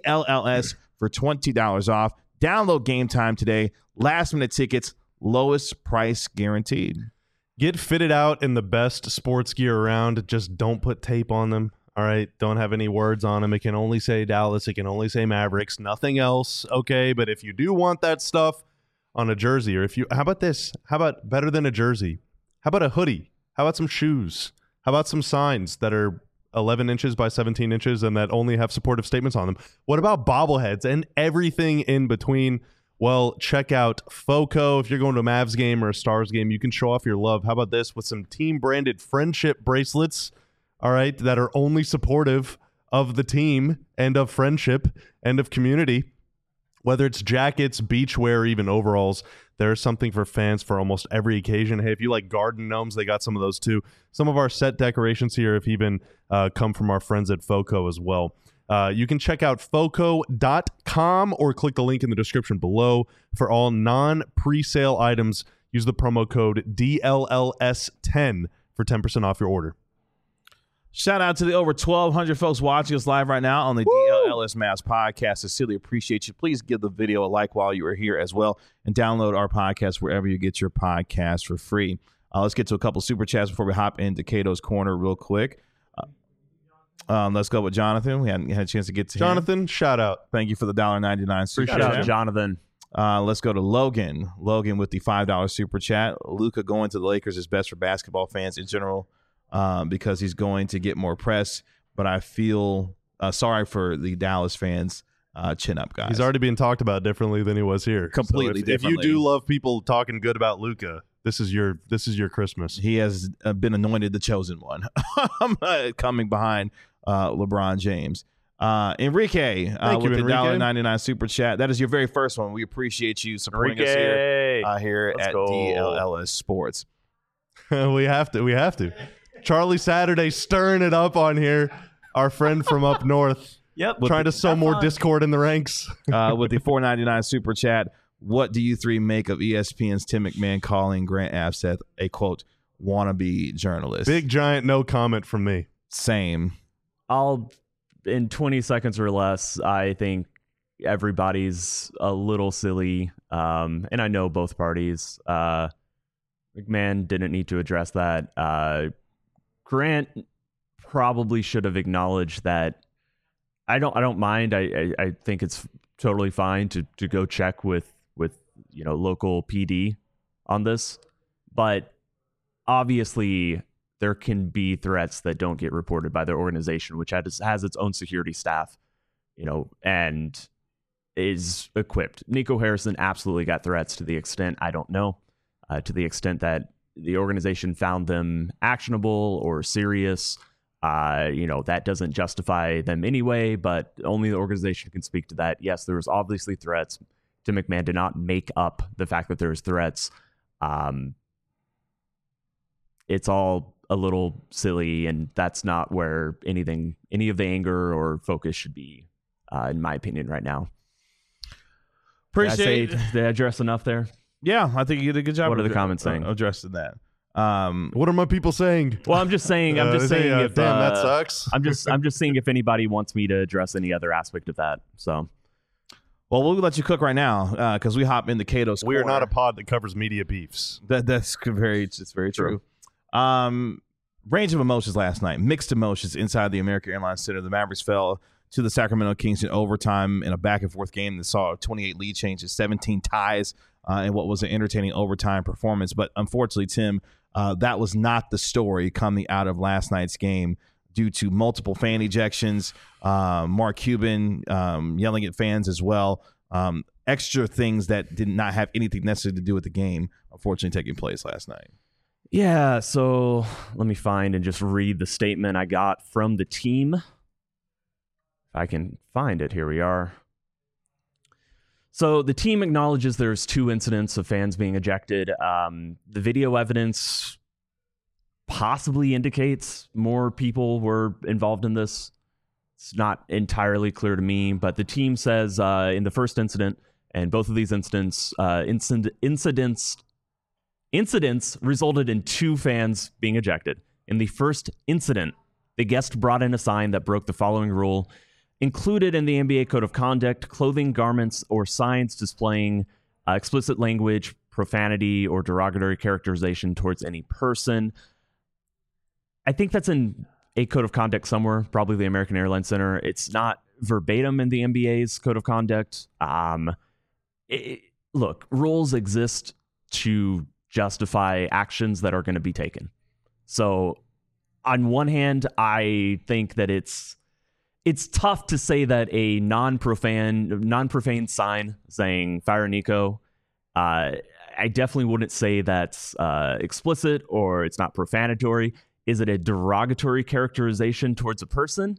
DLLS for $20 off. Download Game Time today. Last-minute tickets, lowest price guaranteed.
Get fitted out in the best sports gear around. Just don't put tape on them. All right, don't have any words on them. It can only say Dallas. It can only say Mavericks. Nothing else. Okay, but if you do want that stuff on a jersey, or how about this? How about better than a jersey? How about a hoodie? How about some shoes? How about some signs that are 11 inches by 17 inches and that only have supportive statements on them? What about bobbleheads and everything in between? Well, check out FOCO. If you're going to a Mavs game or a Stars game, you can show off your love. How about this with some team-branded friendship bracelets, all right, that are only supportive of the team and of friendship and of community. Whether it's jackets, beachwear, or even overalls, There's something for fans for almost every occasion. Hey, if you like garden gnomes, they got some of those too. Some of our set decorations here have even come from our friends at FOCO as well. You can check out foco.com or click the link in the description below for all non-presale items. Use the promo code DLLS10 for 10% off your order.
Shout out to the over 1,200 folks watching us live right now on the DLLS Mavs podcast. Sincerely appreciate you. Please give the video a like while you are here as well, and download our podcast wherever you get your podcast for free. Let's get to a couple super chats before we hop into Cato's Corner real quick. Let's go with Jonathan. We hadn't had a chance to get to
Jonathan,
him.
Shout out.
Thank you for the $1.99 super
Shout out
chat.
to Jonathan.
Let's go to Logan. Logan with the $5 super chat. Luka going to the Lakers is best for basketball fans in general. Because he's going to get more press, but I feel sorry for the Dallas fans. Chin up, guys.
He's already being talked about differently than he was here.
Completely
so if you
differently.
do love people talking good about Luka, this is your Christmas.
He has been anointed the chosen one, coming behind LeBron James. Enrique with the $1.99 super chat. That is your very first one. We appreciate you supporting us here
Let's
at
go.
DLLS Sports.
We have to. Charlie Saturday stirring it up on here. Our friend from up north.
Yep.
Trying to sow more discord in the ranks.
With the $4.99 super chat, what do you three make of ESPN's Tim McMahon calling Grant Abseth a, quote, wannabe journalist?
Big giant no comment from me.
Same.
In 20 seconds or less, I think everybody's a little silly. And I know both parties. McMahon didn't need to address that. Grant probably should have acknowledged that. I don't mind. I think it's totally fine to go check with local PD on this, but obviously there can be threats that don't get reported by their organization, which has its own security staff, and is equipped. Nico Harrison absolutely got threats to the extent I don't know. To the extent that the organization found them actionable or serious, that doesn't justify them anyway, but only the organization can speak to that. Yes, there was obviously threats. Tim McMahon did not make up the fact that there's threats. It's all a little silly, and that's not where any of the anger or focus should be, in my opinion, right now. Did I address enough there?
Yeah, I think you did a good job.
What are the comments saying?
Addressing that.
What are my people saying?
Well, I'm just saying. If
damn, that sucks.
I'm just seeing if anybody wants me to address any other aspect of that. So,
well, we'll let you cook right now because we hop into Cato's
We are
Corner.
not a pod that covers media beefs.
That's very true. Range of emotions last night. Mixed emotions inside the American Airlines Center. The Mavericks fell to the Sacramento Kings in overtime in a back-and-forth game that saw a 28 lead change to 17 ties in what was an entertaining overtime performance. But unfortunately, Tim, that was not the story coming out of last night's game due to multiple fan ejections, Mark Cuban yelling at fans as well, extra things that did not have anything necessarily to do with the game, unfortunately, taking place last night.
yeah, so let me find and just read the statement I got from the team. If I can find it, here we are. So the team acknowledges there's 2 incidents of fans being ejected. The video evidence possibly indicates more people were involved in this. It's not entirely clear to me, but the team says in the first incident, and both of these incidents resulted in 2 fans being ejected. In the first incident, the guest brought in a sign that broke the following rule. Included in the NBA Code of Conduct, clothing, garments, or signs displaying explicit language, profanity, or derogatory characterization towards any person. I think that's in a Code of Conduct somewhere, probably the American Airlines Center. It's not verbatim in the NBA's Code of Conduct. Look, rules exist to justify actions that are going to be taken. So on one hand, I think that it's tough to say that a non-profane sign saying "Fire Nico," I definitely wouldn't say that's explicit or it's not profanatory. Is it a derogatory characterization towards a person?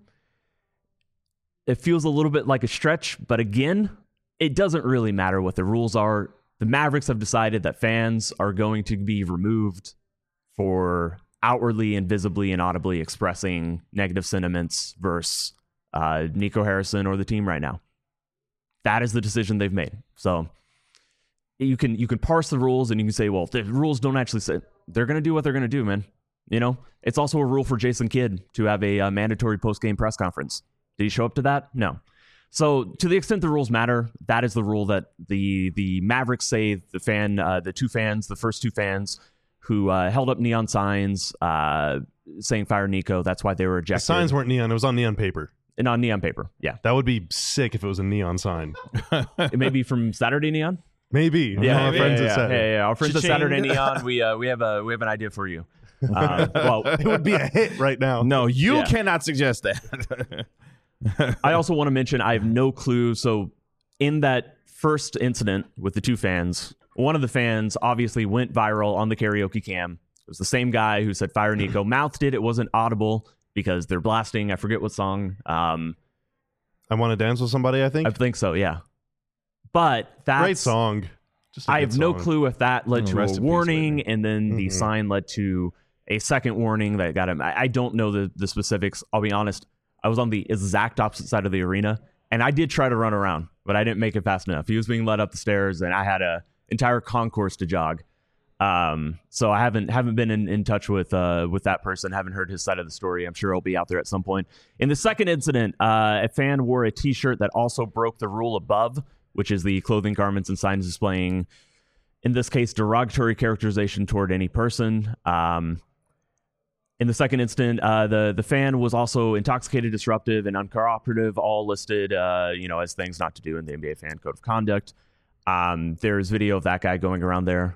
It feels a little bit like a stretch, but again, it doesn't really matter what the rules are. the Mavericks have decided that fans are going to be removed for outwardly and visibly and audibly expressing negative sentiments versus Nico Harrison or the team right now. That is the decision they've made. So you can parse the rules and you can say, well, the rules don't actually say. They're going to do what they're going to do, man. You know, it's also a rule for Jason Kidd to have a mandatory post-game press conference. Did he show up to that? No. So to the extent the rules matter, that is the rule that the Mavericks say the first two fans who held up neon signs saying fire Nico. That's why they were ejected.
The signs weren't neon. It was on neon paper.
And on neon paper, yeah.
That would be sick if it was a neon sign.
It may be from Saturday Neon.
Maybe.
Yeah,
our friends at Saturday.
Our friends at Saturday Neon. We have an idea for you. Well,
it would be a hit right now.
No, you cannot suggest that.
I also want to mention I have no clue. So in that first incident with the two fans, one of the fans obviously went viral on the karaoke cam. It was the same guy who said fire Nico. Mouthed it. It wasn't audible because they're blasting. I forget what song.
I Want to Dance with Somebody, I think
so, yeah. But that's
great song.
I have no clue if that led to a warning and then the sign led to a second warning that got him. I don't know the specifics. I'll be honest. I was on the exact opposite side of the arena, and I did try to run around, but I didn't make it fast enough. He was being led up the stairs, and I had an entire concourse to jog. So I haven't been in touch with that person. Haven't heard his side of the story. I'm sure he'll be out there at some point. In the second incident, a fan wore a T-shirt that also broke the rule above, which is the clothing, garments, and signs displaying, in this case, derogatory characterization toward any person. In the second incident, the fan was also intoxicated, disruptive, and uncooperative, all listed, as things not to do in the NBA fan code of conduct. There's video of that guy going around there.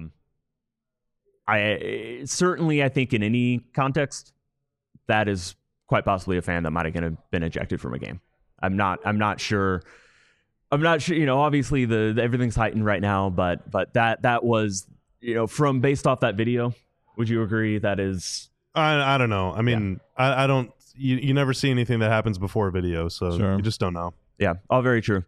I think in any context, that is quite possibly a fan that might have been ejected from a game. I'm not sure. Obviously everything's heightened right now, but that was, from based off that video. Would you agree that is?
I don't know. I mean, I don't. You never see anything that happens before a video, so you just don't know.
Yeah, all very true.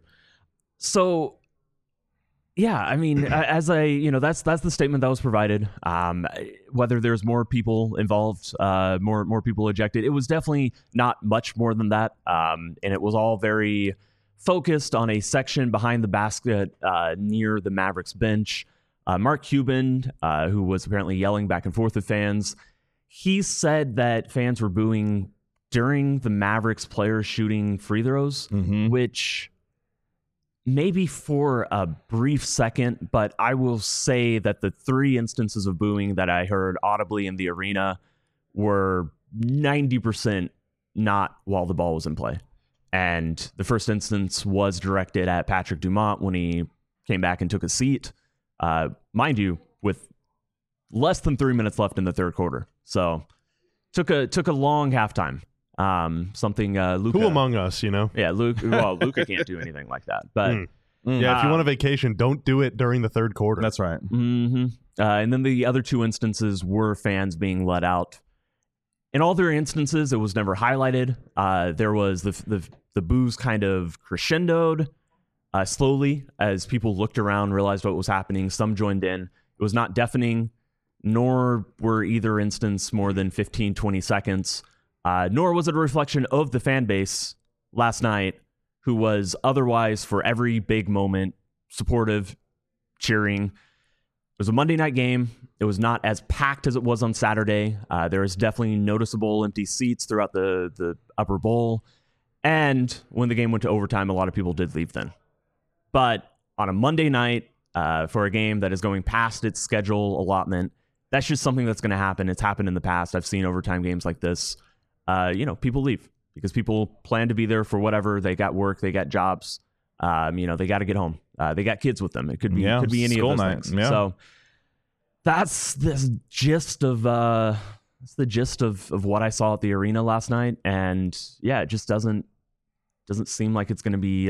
So, yeah, I mean, that's the statement that was provided. Whether there's more people involved, more people ejected, it was definitely not much more than that. And it was all very focused on a section behind the basket near the Mavericks bench. Mark Cuban, who was apparently yelling back and forth with fans, he said that fans were booing during the Mavericks players shooting free throws, which maybe for a brief second, but I will say that the three instances of booing that I heard audibly in the arena were 90% not while the ball was in play. And the first instance was directed at Patrick Dumont when he came back and took a seat, mind you, with less than 3 minutes left in the third quarter. So took a long halftime. Something Luka.
Who among us,
Yeah, Luka can't do anything like that. But
yeah, if you want a vacation, don't do it during the third quarter.
That's right.
And then the other two instances were fans being let out. In all their instances, it was never highlighted. There was the boos kind of crescendoed slowly as people looked around, realized what was happening. Some joined in. It was not deafening, nor were either instance more than 15, 20 seconds. Nor was it a reflection of the fan base last night, who was otherwise, for every big moment, supportive, cheering. It was a Monday night game. It was not as packed as it was on Saturday. There was definitely noticeable empty seats throughout the upper bowl. And when the game went to overtime, a lot of people did leave then. But on a Monday night, for a game that is going past its schedule allotment, that's just something that's going to happen. It's happened in the past. I've seen overtime games like this. People leave because people plan to be there for whatever. They got work, they got jobs. They got to get home. They got kids with them. It could be any of those things. Yeah. So that's the gist of what I saw at the arena last night. And yeah, it just doesn't seem like it's going to be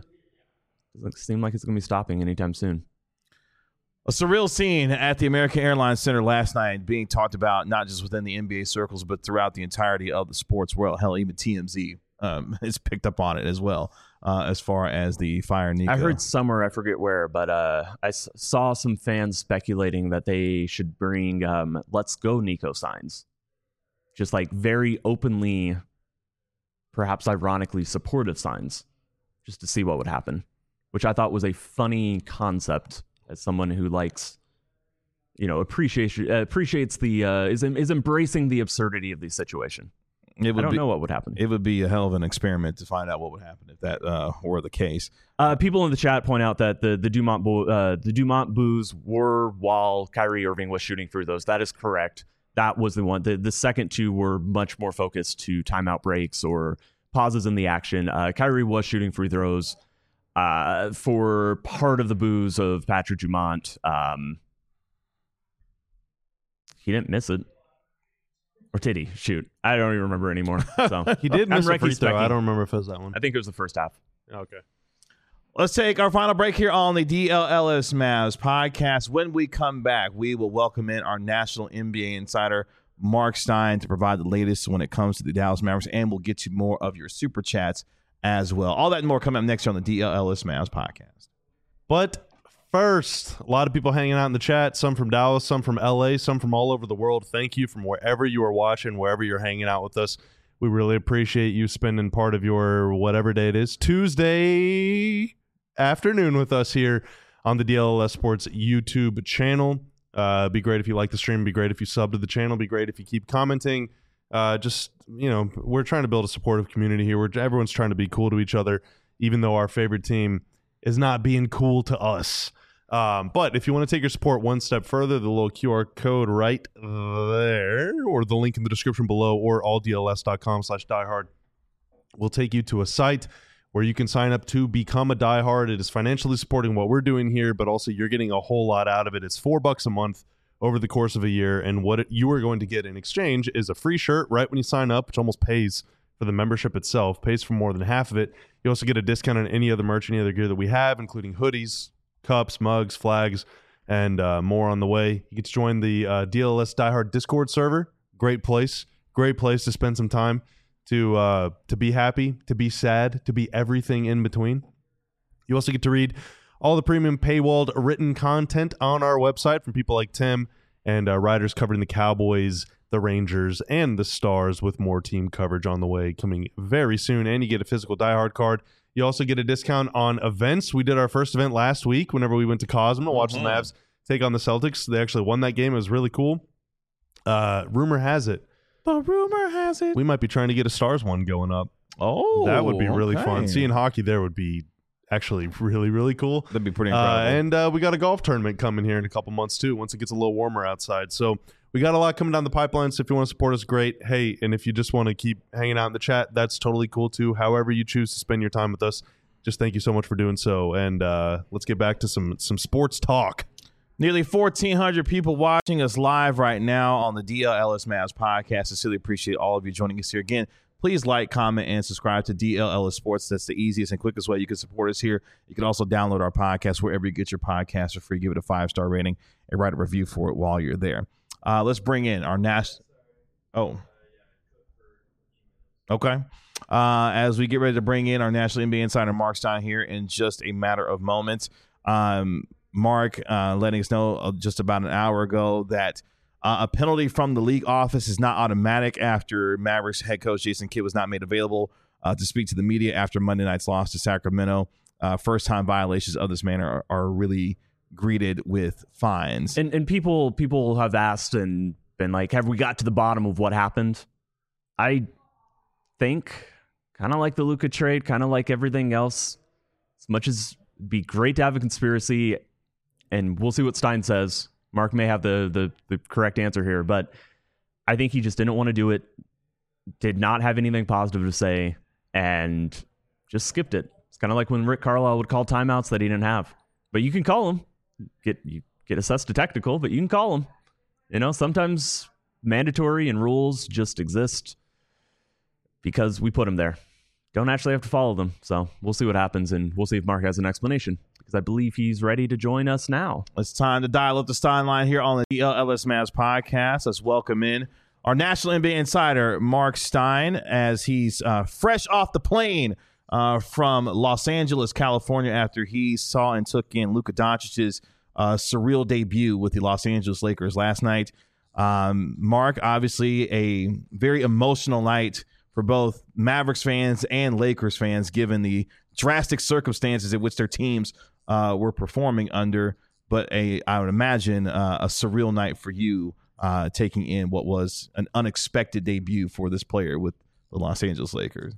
stopping anytime soon.
A surreal scene at the American Airlines Center last night being talked about not just within the NBA circles, but throughout the entirety of the sports world. Hell, even TMZ is picked up on it as well. As far as the fire Nico,
I heard somewhere, I forget where, but I saw some fans speculating that they should bring "Let's Go Nico" signs, just like very openly, perhaps ironically supportive signs, just to see what would happen, which I thought was a funny concept as someone who likes, appreciates the is embracing the absurdity of the situation. I don't know what would happen.
It would be a hell of an experiment to find out what would happen if that were the case.
People in the chat point out that the Dumont boos were while Kyrie Irving was shooting through those. That is correct. That was the one. The second two were much more focused to timeout breaks or pauses in the action. Kyrie was shooting free throws for part of the boos of Patrick Dumont. He didn't miss it. Or did he? Shoot. I don't even remember anymore. So
he did miss a free throw. I don't remember if it was that one.
I think it was the first half.
Okay.
Let's take our final break here on the DLLS Mavs podcast. When we come back, we will welcome in our national NBA insider, Mark Stein, to provide the latest when it comes to the Dallas Mavericks, and we'll get to more of your super chats as well. All that and more coming up next year on the DLLS Mavs podcast.
But first, a lot of people hanging out in the chat, some from Dallas, some from LA, some from all over the world. Thank you from wherever you are watching, wherever you're hanging out with us. We really appreciate you spending part of your whatever day it is, Tuesday afternoon with us here on the DLLS Sports YouTube channel. Be great if you like the stream. Be great if you sub to the channel. Be great if you keep commenting. We're trying to build a supportive community here where everyone's trying to be cool to each other, even though our favorite team is not being cool to us. But if you want to take your support one step further, the little QR code right there, or the link in the description below, or alldls.com/diehard will take you to a site where you can sign up to become a diehard. It is financially supporting what we're doing here, but also you're getting a whole lot out of it. It's $4 a month over the course of a year, and what you are going to get in exchange is a free shirt right when you sign up, which almost pays for the membership itself, pays for more than half of it. You also get a discount on any other merch, any other gear that we have, including hoodies, cups, mugs, flags, and more on the way. You get to join the DLS Diehard Discord server. Great place to spend some time to be happy, to be sad, to be everything in between. You also get to read all the premium paywalled written content on our website from people like Tim and writers covering the Cowboys, the Rangers, and the Stars, with more team coverage on the way coming very soon. And you get a physical diehard card. You also get a discount on events. We did our first event last week whenever we went to Cosmo, watch the Mavs take on the Celtics. They actually won that game. It was really cool. Rumor has it, we might be trying to get a Stars one going up.
Oh,
that would be really fun. Seeing hockey there would be actually really, really cool.
That'd be pretty incredible.
And we got a golf tournament coming here in a couple months too, once it gets a little warmer outside. So we got a lot coming down the pipeline. So if you want to support us, great. Hey, and if you just want to keep hanging out in the chat, that's totally cool too. However you choose to spend your time with us, just thank you so much for doing so. And let's get back to some sports talk.
Nearly 1,400 people watching us live right now on the DLLS Mavs podcast. I sincerely appreciate all of you joining us here. Again, please like, comment, and subscribe to DLLS Sports. That's the easiest and quickest way you can support us here. You can also download our podcast wherever you get your podcasts for free. Give it a 5-star rating and write a review for it while you're there. Let's bring in our national. Oh. Okay. As we get ready to bring in our national NBA insider, Mark Stein, here in just a matter of moments. Mark letting us know just about an hour ago that a penalty from the league office is not automatic after Mavericks head coach Jason Kidd was not made available to speak to the media after Monday night's loss to Sacramento. First-time violations of this manner are really greeted with fines.
And people have asked and been like, have we got to the bottom of what happened? I think, kind of like the Luka trade, kind of like everything else, as much as it'd be great to have a conspiracy, and we'll see what Stein says. Mark may have the correct answer here, but I think he just didn't want to do it, did not have anything positive to say, and just skipped it. It's kind of like when Rick Carlisle would call timeouts that he didn't have. But you can call them. You get assessed to technical, but you can call them. You know, sometimes mandatory and rules just exist because we put them there. Don't actually have to follow them. So we'll see what happens, and we'll see if Mark has an explanation, because I believe he's ready to join us now.
It's time to dial up the Stein line here on the DLLS Mavs podcast. Let's welcome in our national NBA insider, Mark Stein, as he's fresh off the plane from Los Angeles, California, after he saw and took in Luka Doncic's surreal debut with the Los Angeles Lakers last night. Mark, obviously a very emotional night for both Mavericks fans and Lakers fans, given the drastic circumstances in which their teams were performing under. But I would imagine a surreal night for you, taking in what was an unexpected debut for this player with the Los Angeles Lakers.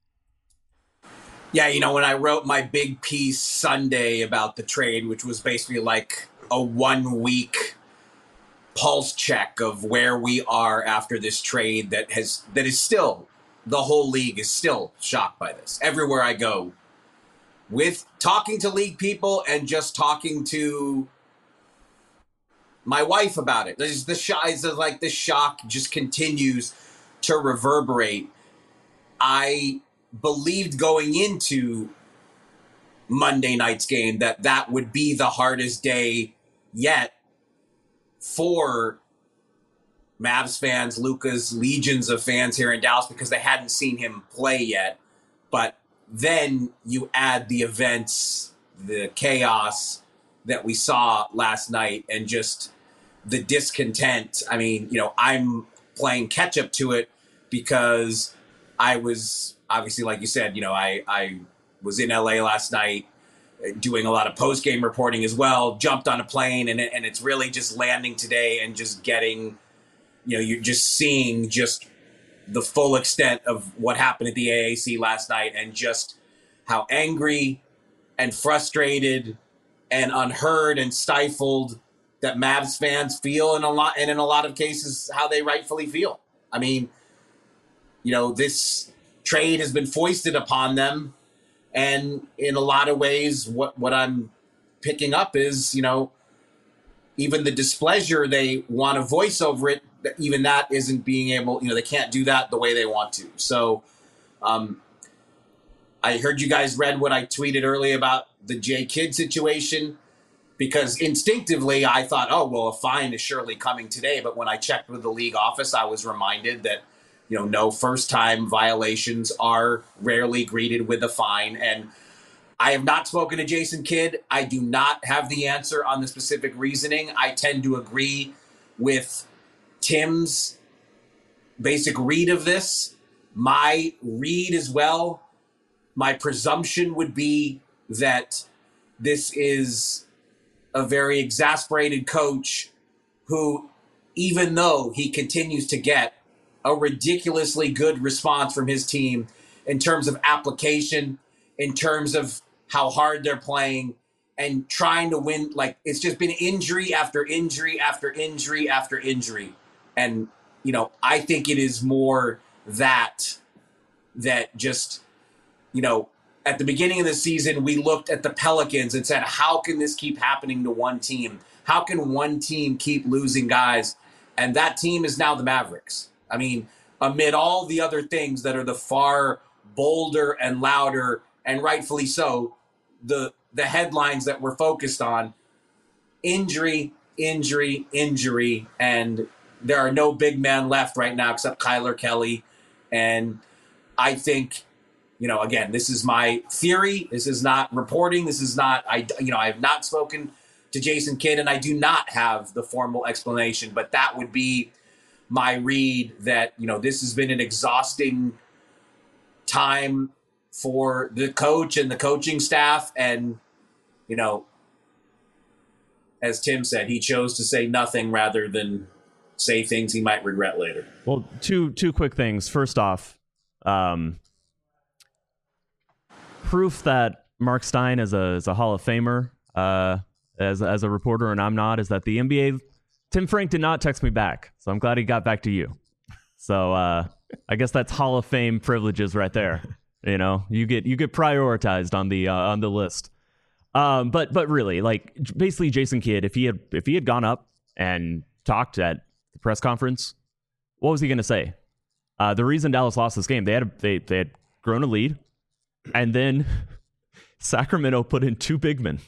Yeah, when I wrote my big piece Sunday about the trade, which was basically like a 1 week pulse check of where we are after this trade that is still, the whole league is still shocked by this. Everywhere I go, with talking to league people and just talking to my wife about it. The shock just continues to reverberate. I believed going into Monday night's game that would be the hardest day yet for Mavs fans, Luka's legions of fans here in Dallas, because they hadn't seen him play yet. But then you add the events, the chaos that we saw last night, and just the discontent. I mean, I'm playing catch up to it because I was obviously, like you said, I was in LA last night doing a lot of post-game reporting as well, jumped on a plane, and it's really just landing today and just getting, you're just seeing just the full extent of what happened at the AAC last night, and just how angry and frustrated and unheard and stifled that Mavs fans feel, in a lot of cases how they rightfully feel. I mean, this trade has been foisted upon them, and in a lot of ways what I'm picking up is, even the displeasure they want to voice over it, even that isn't being able, they can't do that the way they want to. So I heard you guys read what I tweeted earlier about the J. Kidd situation, because instinctively I thought, oh, well, a fine is surely coming today. But when I checked with the league office, I was reminded that, no first-time violations are rarely greeted with a fine. And I have not spoken to Jason Kidd. I do not have the answer on the specific reasoning. I tend to agree with Tim's basic read of this. My read as well, my presumption would be that this is a very exasperated coach who, even though he continues to get a ridiculously good response from his team in terms of application, in terms of how hard they're playing and trying to win, like, it's just been injury after injury after injury after injury. And, I think it is more that just, at the beginning of the season, we looked at the Pelicans and said, how can this keep happening to one team? How can one team keep losing guys? And that team is now the Mavericks. I mean, amid all the other things that are the far bolder and louder, and rightfully so, the headlines that we're focused on, injury, injury, injury, and there are no big men left right now except Kyler Kelly. And I think, again, this is my theory. This is not reporting. This is not, I have not spoken to Jason Kidd, and I do not have the formal explanation, but that would be my read, that, this has been an exhausting time for the coach and the coaching staff. And, as Tim said, he chose to say nothing rather than say things he might regret later.
Well, two quick things. First off, proof that Mark Stein is a Hall of Famer as a reporter and I'm not, is that the NBA, Tim Frank did not text me back, so I'm glad he got back to you. So I guess that's Hall of Fame privileges right there. You get prioritized on the list. But really, like, basically, Jason Kidd, if he had gone up and talked at the press conference, what was he going to say? The reason Dallas lost this game, they had grown a lead, and then Sacramento put in two big men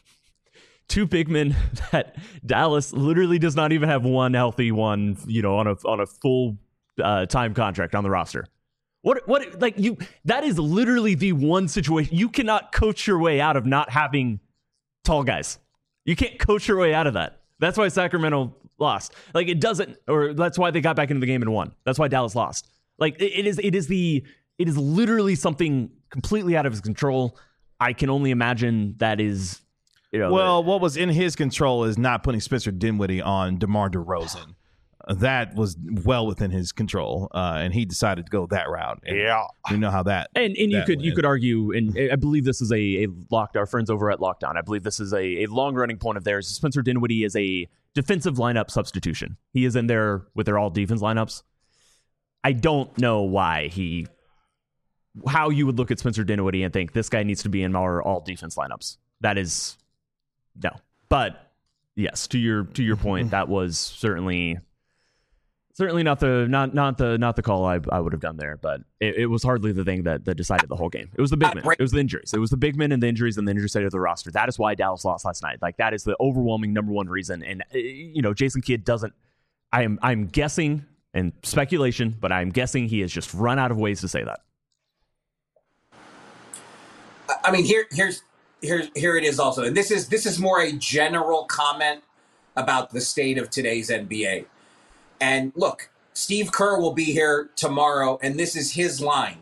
that Dallas literally does not even have one healthy one, on a full time contract on the roster. What like you? That is literally the one situation you cannot coach your way out of not having tall guys. You can't coach your way out of that. That's why Sacramento lost. Like it doesn't, or that's why they got back into the game and won. That's why Dallas lost. Like it is literally something completely out of his control. I can only imagine that is,
well, what was in his control is not putting Spencer Dinwiddie on DeMar DeRozan. That was well within his control, and he decided to go that route. And you know how that.
And you could argue, and I believe this is a locked. Our friends over at Lockdown, I believe this is a long running point of theirs. Spencer Dinwiddie is a defensive lineup substitution. He is in there with their all defense lineups. I don't know how you would look at Spencer Dinwiddie and think this guy needs to be in our all defense lineups. That is no. But yes, to your point, that was certainly not the call I would have done there. But it was hardly the thing that decided the whole game. It was the big men. It was the injuries. It was the big men and the injuries and the injury state of the roster. That is why Dallas lost last night. Like that is the overwhelming number one reason. And Jason Kidd doesn't. I'm guessing and speculation, but I'm guessing he has just run out of ways to say that.
I mean, here it is also, and this is more a general comment about the state of today's NBA. And look, Steve Kerr will be here tomorrow, and this is his line.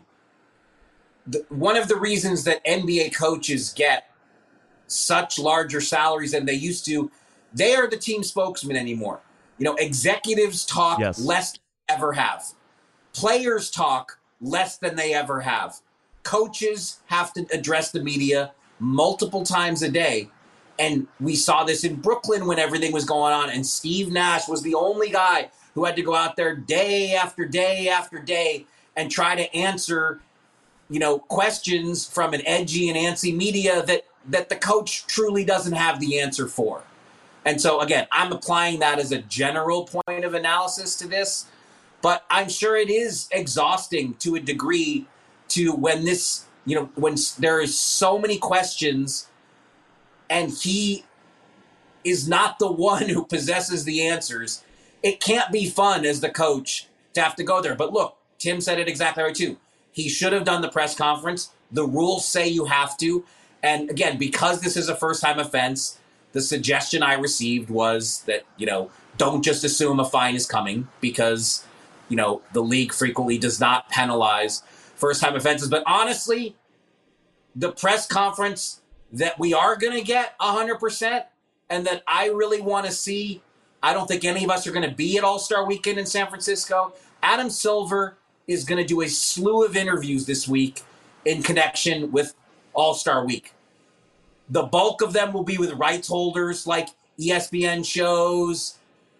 One of the reasons that NBA coaches get such larger salaries than they used to, they are the team spokesman anymore. Executives talk less than they ever have. Players talk less than they ever have. Coaches have to address the media multiple times a day. And we saw this in Brooklyn when everything was going on. And Steve Nash was the only guy who had to go out there day after day after day and try to answer, questions from an edgy and antsy media that the coach truly doesn't have the answer for. And so, again, I'm applying that as a general point of analysis to this. But I'm sure it is exhausting to a degree to when there is so many questions and he is not the one who possesses the answers. It can't be fun as the coach to have to go there. But look, Tim said it exactly right too. He should have done the press conference. The rules say you have to. And again, because this is a first-time offense, the suggestion I received was that, don't just assume a fine is coming because, the league frequently does not penalize first-time offenses. But honestly, the press conference that we are going to get 100% and that I really want to see, I don't think any of us are going to be at All-Star Weekend in San Francisco. Adam Silver is going to do a slew of interviews this week in connection with All-Star Week. The bulk of them will be with rights holders like ESPN shows,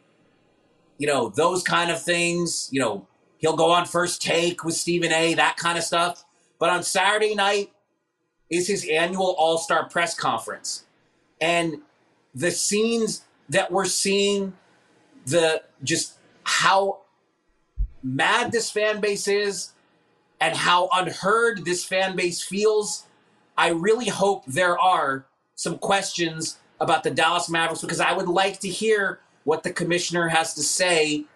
those kind of things. He'll go on First Take with Stephen A., that kind of stuff. But on Saturday night is his annual All-Star press conference. And the scenes that we're seeing, just how mad this fan base is and how unheard this fan base feels, I really hope there are some questions about the Dallas Mavericks because I would like to hear what the commissioner has to say.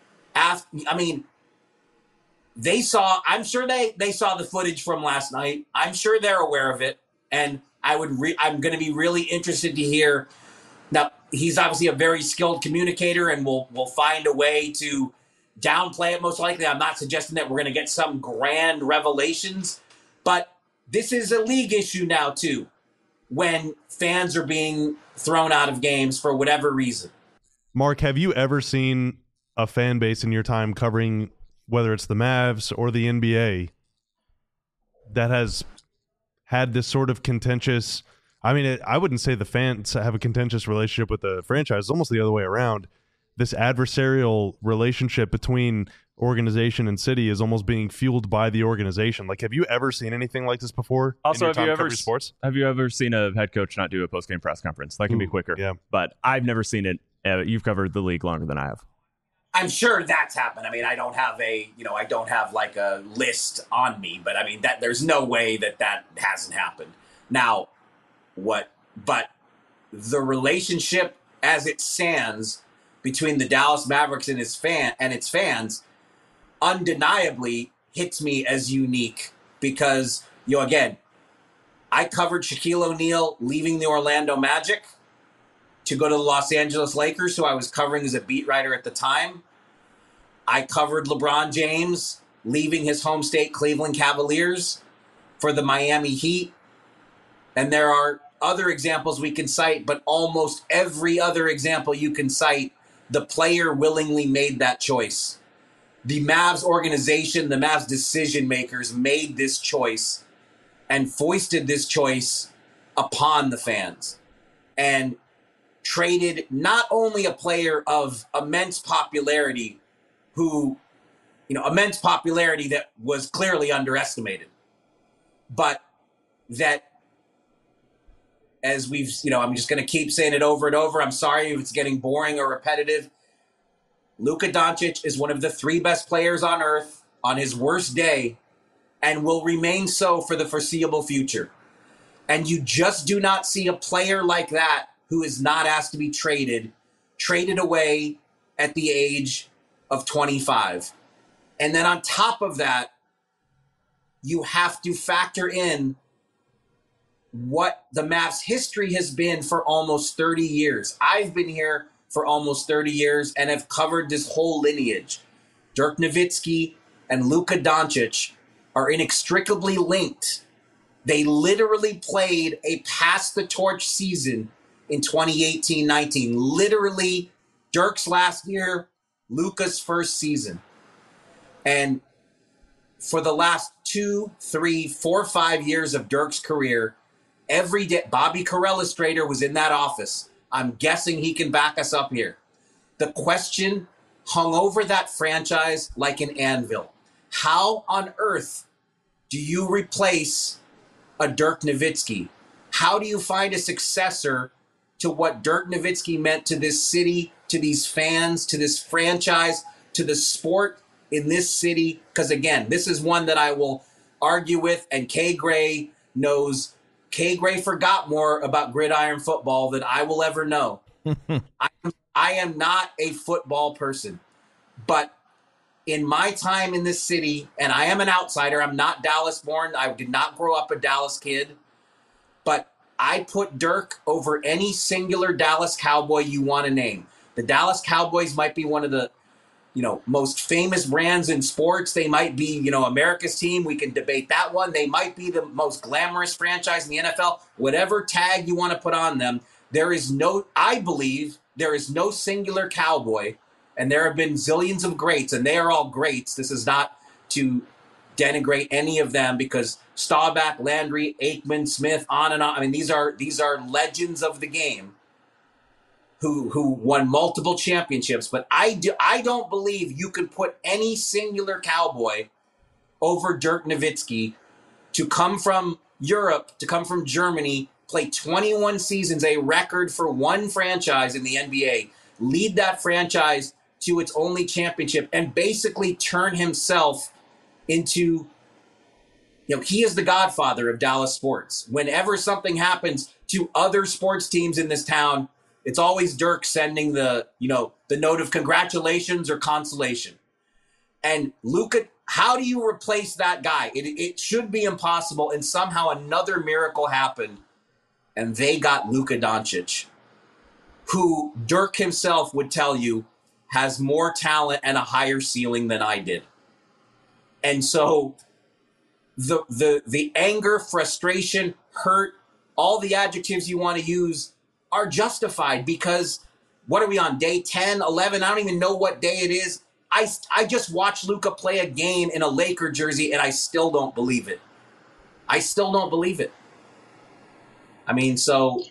I'm sure they saw the footage from last night. I'm sure they're aware of it. And I'm going to be really interested to hear. Now, he's obviously a very skilled communicator and will find a way to downplay it most likely. I'm not suggesting that we're going to get some grand revelations, but this is a league issue now too, when fans are being thrown out of games for whatever reason.
Mark, have you ever seen a fan base in your time covering whether it's the Mavs or the NBA that has had this sort of contentious, I wouldn't say the fans have a contentious relationship with the franchise. It's almost the other way around. This adversarial relationship between organization and city is almost being fueled by the organization. Like, have you ever seen anything like this before?
Also,
have you ever
seen a head coach not do a post-game press conference? That can be quicker.
Yeah.
But I've never seen it. You've covered the league longer than I have.
I'm sure that's happened. I don't have like a list on me, but that there's no way that hasn't happened. Now, but the relationship as it stands between the Dallas Mavericks and its fans, undeniably hits me as unique because, again, I covered Shaquille O'Neal leaving the Orlando Magic to go to the Los Angeles Lakers, who I was covering as a beat writer at the time. I covered LeBron James leaving his home state, Cleveland Cavaliers, for the Miami Heat. And there are other examples we can cite, but almost every other example you can cite, the player willingly made that choice. The Mavs organization, the Mavs decision makers made this choice and foisted this choice upon the fans and traded not only a player of immense popularity immense popularity that was clearly underestimated, but that, as we've, I'm just going to keep saying it over and over. I'm sorry if it's getting boring or repetitive. Luka Doncic is one of the 3 best players on earth on his worst day and will remain so for the foreseeable future. And you just do not see a player like that who is not asked to be traded away at the age of 25. And then on top of that, you have to factor in what the Mavs history has been for almost 30 years. I've been here for almost 30 years and have covered this whole lineage. Dirk Nowitzki and Luka Doncic are inextricably linked. They literally played a pass-the-torch season in 2018-19. Literally, Dirk's last year, Luka's first season. And for the last 2, 3, 4, 5 years of Dirk's career, every day, Bobby Carell was in that office. I'm guessing he can back us up here. The question hung over that franchise like an anvil. How on earth do you replace a Dirk Nowitzki? How do you find a successor to what Dirk Nowitzki meant to this city, to these fans, to this franchise, to the sport in this city? Because again, this is one that I will argue with, and Kay Gray knows. Kay Gray forgot more about gridiron football than I will ever know. I am not a football person, but in my time in this city, and I am an outsider, I'm not Dallas born, I did not grow up a Dallas kid, but I put Dirk over any singular Dallas Cowboy you want to name. The Dallas Cowboys might be one of the most famous brands in sports. They might be, America's team. We can debate that one. They might be the most glamorous franchise in the NFL. Whatever tag you want to put on them, I believe there is no singular Cowboy, and there have been zillions of greats, and they are all greats. This is not to denigrate any of them, because Staubach, Landry, Aikman, Smith, on and on. I mean, these are legends of the game who won multiple championships. But I don't believe you could put any singular Cowboy over Dirk Nowitzki, to come from Europe, to come from Germany, play 21 seasons, a record for one franchise in the NBA, lead that franchise to its only championship, and basically turn himself into, he is the godfather of Dallas sports. Whenever something happens to other sports teams in this town, it's always Dirk sending the note of congratulations or consolation. And Luka, how do you replace that guy? It should be impossible, and somehow another miracle happened, and they got Luka Doncic, who Dirk himself would tell you has more talent and a higher ceiling than I did. And so the anger, frustration, hurt, all the adjectives you want to use are justified, because what are we on, day 10, 11? I don't even know what day it is. I just watched Luka play a game in a Laker jersey, and I still don't believe it. I mean, so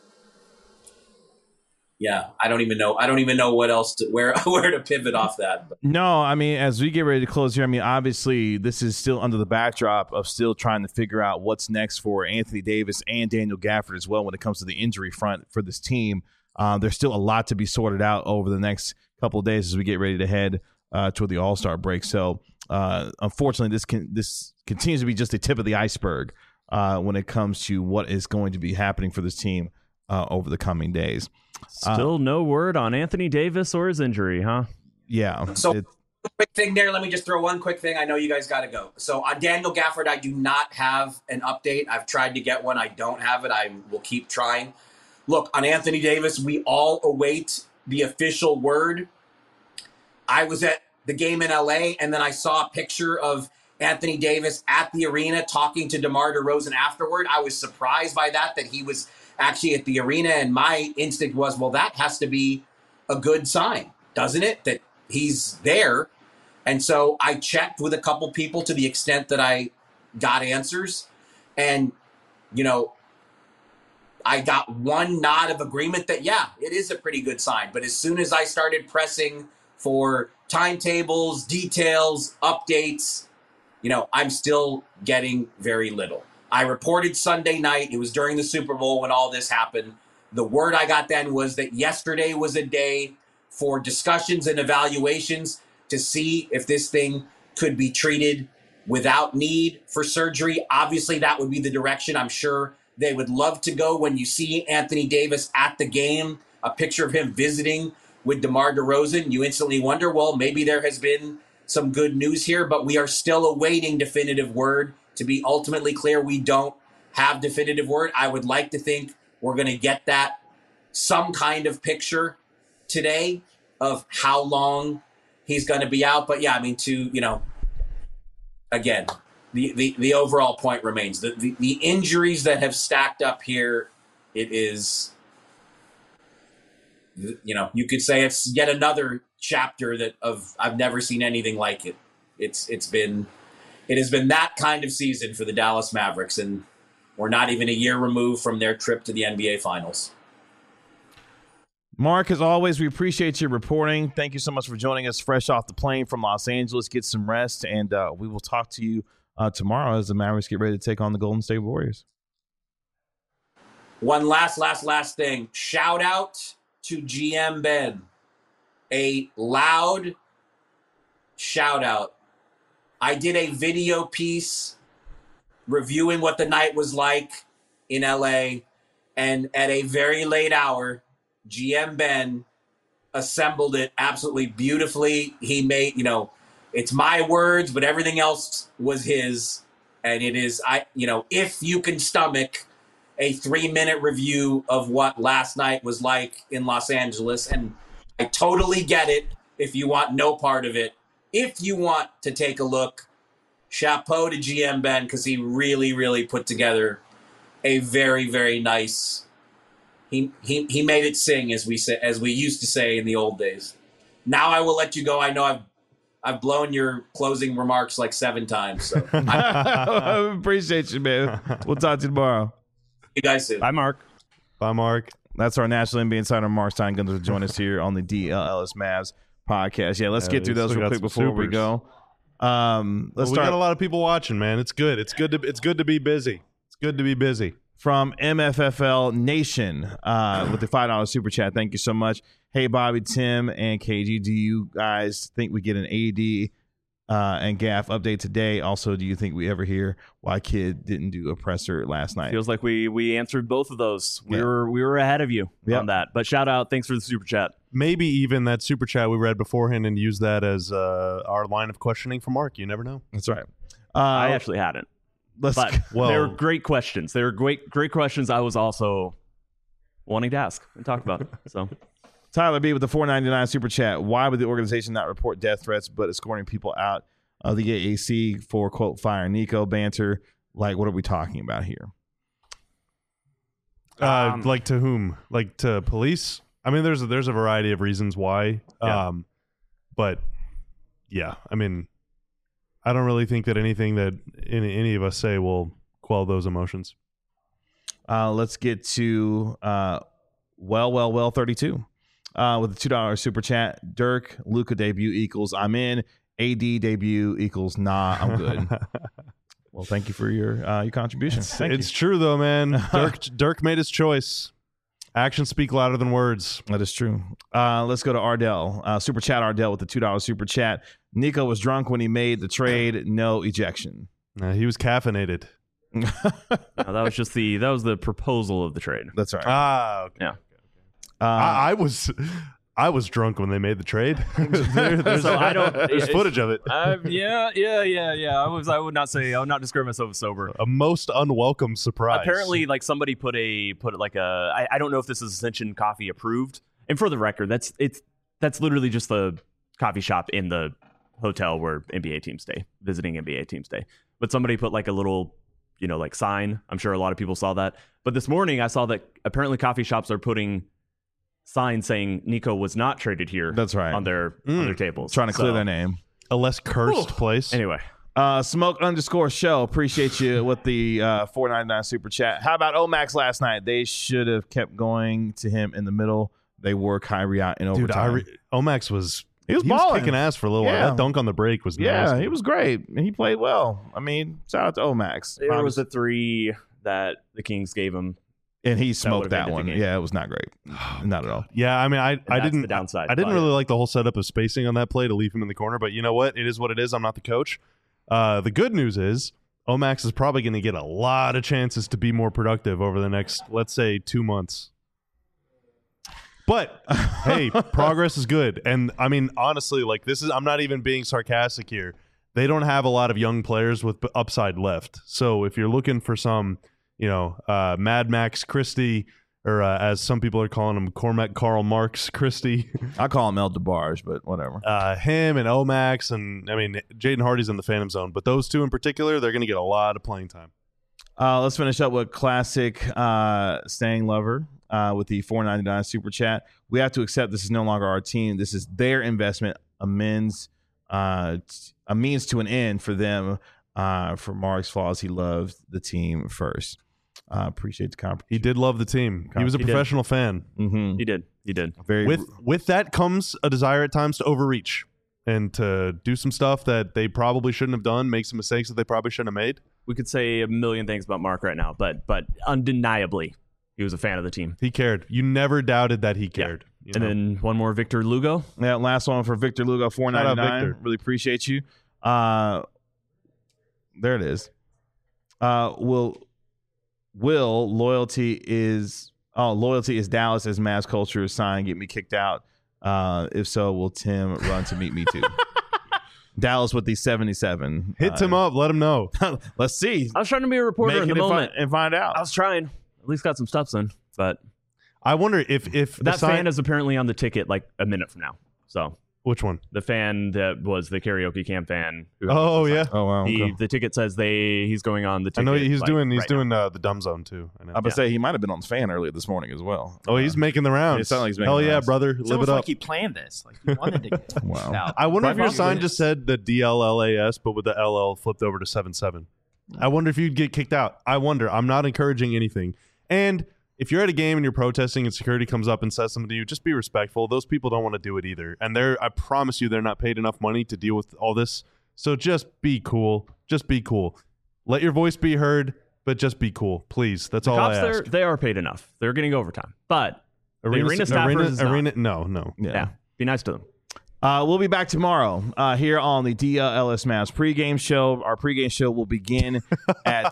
yeah, I don't even know what else where to pivot off that.
No, I mean, as we get ready to close here, I mean, obviously this is still under the backdrop of still trying to figure out what's next for Anthony Davis and Daniel Gafford as well when it comes to the injury front for this team. There's still a lot to be sorted out over the next couple of days as we get ready to head toward the All-Star break. So unfortunately, this continues to be just the tip of the iceberg when it comes to what is going to be happening for this team over the coming days.
Still no word on Anthony Davis or his injury, huh?
Yeah.
So quick thing there. Let me just throw one quick thing. I know you guys got to go. So on Daniel Gafford, I do not have an update. I've tried to get one. I don't have it. I will keep trying. Look, on Anthony Davis, we all await the official word. I was at the game in LA, and then I saw a picture of Anthony Davis at the arena talking to DeMar DeRozan afterward. I was surprised by that he was actually at the arena, and my instinct was, well, that has to be a good sign, doesn't it, that he's there? And so I checked with a couple people to the extent that I got answers, and, I got one nod of agreement that, yeah, it is a pretty good sign. But as soon as I started pressing for timetables, details, updates, I'm still getting very little. I reported Sunday night. It was during the Super Bowl when all this happened. The word I got then was that yesterday was a day for discussions and evaluations to see if this thing could be treated without need for surgery. Obviously, that would be the direction I'm sure they would love to go. When you see Anthony Davis at the game, a picture of him visiting with DeMar DeRozan, you instantly wonder, well, maybe there has been some good news here, but we are still awaiting definitive word. To be ultimately clear, we don't have definitive word. I would like to think we're going to get that some kind of picture today of how long he's going to be out. But yeah, I mean, again, the overall point remains the injuries that have stacked up here. It is, you could say it's yet another chapter I've never seen anything like it. It has been that kind of season for the Dallas Mavericks, and we're not even a year removed from their trip to the NBA Finals.
Mark, as always, we appreciate your reporting. Thank you so much for joining us fresh off the plane from Los Angeles. Get some rest, and we will talk to you tomorrow as the Mavericks get ready to take on the Golden State Warriors.
One last thing. Shout out to GM Ben. A loud shout out. I did a video piece reviewing what the night was like in LA, and at a very late hour, GM Ben assembled it absolutely beautifully. He made, it's my words, but everything else was his. And it is, if you can stomach a 3-minute review of what last night was like in Los Angeles, and I totally get it if you want no part of it. If you want to take a look, chapeau to GM Ben, because he really, really put together a very, very nice. He made it sing, as we used to say in the old days. Now I will let you go. I know I've blown your closing remarks like 7 times. So
I appreciate you, man. We'll talk to you tomorrow.
You guys soon.
Bye, Mark.
Bye, Mark.
That's our National NBA Insider, Mark Stein, going to join us here on the DLS Mavs podcast. Yeah, let's get through those real quick before we go. Let's start.
We got a lot of people watching, man. It's good. It's good to be busy. It's good to be busy.
From MFFL Nation with the $5 super chat. Thank you so much. Hey, Bobby, Tim, and KG, do you guys think we get an AD and Gaff update today? Also, do you think we ever hear why Kid didn't do a presser last night?
Feels like we answered both of those. We were ahead of you on that. But shout out, thanks for the super chat.
Maybe even that super chat we read beforehand and use that as our line of questioning for Mark. You never know.
That's right.
I actually hadn't. But they were great questions. They were great questions I was also wanting to ask and talk about. So,
Tyler B with the $4.99 super chat. Why would the organization not report death threats but escorting people out of the AAC for, quote, fire Nico banter? Like, what are we talking about here?
Like to whom? Like to police? I mean, there's a variety of reasons why.
Yeah.
But yeah, I mean, I don't really think that anything that any of us say will quell those emotions.
Let's get to well 32 with a $2 super chat. Dirk, Luka debut equals I'm in. AD debut equals nah, I'm good. Well, thank you for your contribution.
It's true though, man. Dirk made his choice. Actions speak louder than words.
That is true. Let's go to Ardell. Super chat Ardell with the $2 super chat. Nico was drunk when he made the trade. No ejection.
He was caffeinated.
No, that was just that was the proposal of the trade.
That's right.
Okay.
Yeah.
I I was drunk when they made the trade.
There's
footage of it.
Yeah. I would not describe myself as sober.
A most unwelcome surprise.
Apparently, like somebody put like a. I don't know if this is Ascension Coffee approved. And for the record, that's literally just the coffee shop in the hotel where NBA teams stay, visiting NBA teams stay. But somebody put like a little, like sign. I'm sure a lot of people saw that. But this morning I saw that apparently coffee shops are putting signs saying Nico was not traded here.
That's right.
On their tables.
Trying to clear their name.
A less cursed place.
Anyway.
Smoke_show. Appreciate you with the $4.99 super chat. How about Omax last night? They should have kept going to him in the middle. They wore Kyrie out in overtime.
Omax was...
He was balling.
Kicking ass for a little while. That dunk on the break was nasty.
He was great. And he played well. I mean, shout out to Omax.
There was a 3 that the Kings gave him.
And he smoked that one. Yeah, it was not great. Not at all.
Yeah, I mean, I didn't.
The downside.
I didn't really like the whole setup of spacing on that play to leave him in the corner. But you know what? It is what it is. I'm not the coach. The good news is Omax is probably going to get a lot of chances to be more productive over the next, let's say, 2 months. But hey, progress is good. And I mean, honestly, like I'm not even being sarcastic here. They don't have a lot of young players with upside left. So if you're looking for some, Mad Max Christie, or as some people are calling him, Cormac Karl Marx Christie.
I call him El DeBarge, but whatever.
Him and Omax, and I mean, Jaden Hardy's in the Phantom Zone. But those two in particular, they're going to get a lot of playing time.
Let's finish up with classic Staying Lover. With the $4.99 super chat. We have to accept this is no longer our team. This is their investment, a means to an end for them. For Mark's flaws, he loved the team first. Appreciate the compliment.
He did love the team. He was a professional fan.
Mm-hmm.
He did.
With that comes a desire at times to overreach and to do some stuff that they probably shouldn't have done, make some mistakes that they probably shouldn't have made.
We could say a million things about Mark right now, but undeniably, he was a fan of the team.
He cared. You never doudted that he cared.
Yeah. And then one more, Victor Lugo.
Yeah, last one for Victor Lugo, $4.99. Really appreciate you. There it is. Will loyalty is Dallas as mass culture is sign get me kicked out? If so, will Tim run to meet me too? Dallas with the 77.
Hit Tim up. Let him know.
Let's see.
I was trying to be a reporter in the moment
and find out.
I was trying. At least got some stuff in, but
I wonder if
that fan is apparently on the ticket like a minute from now. So
which one?
The fan that was the karaoke camp fan.
Oh yeah.
Oh wow.
The ticket says he's going on the ticket.
I know he's doing the dumb zone too. I know.
I would say he might have been on the fan earlier this morning as well.
Oh, he's making the rounds.
It sounds like he's making
Hell
the
yeah,
rounds.
brother. Live it up.
Like he planned this. Like he wanted to get
wow.
out.
I wonder if your sign just said the DLLAS, but with the LL flipped over to 77. I wonder if you'd get kicked out. I wonder. I'm not encouraging anything. And if you're at a game and you're protesting and security comes up and says something to you, just be respectful. Those people don't want to do it either. And I promise you, they're not paid enough money to deal with all this. So just be cool. Just be cool. Let your voice be heard, but just be cool. Please. That's all I ask.
They are paid enough. They're getting overtime. But the arena staffers is not.
No.
Yeah. Be nice to them.
We'll be back tomorrow here on the DLS Mavs pregame show. Our pregame show will begin at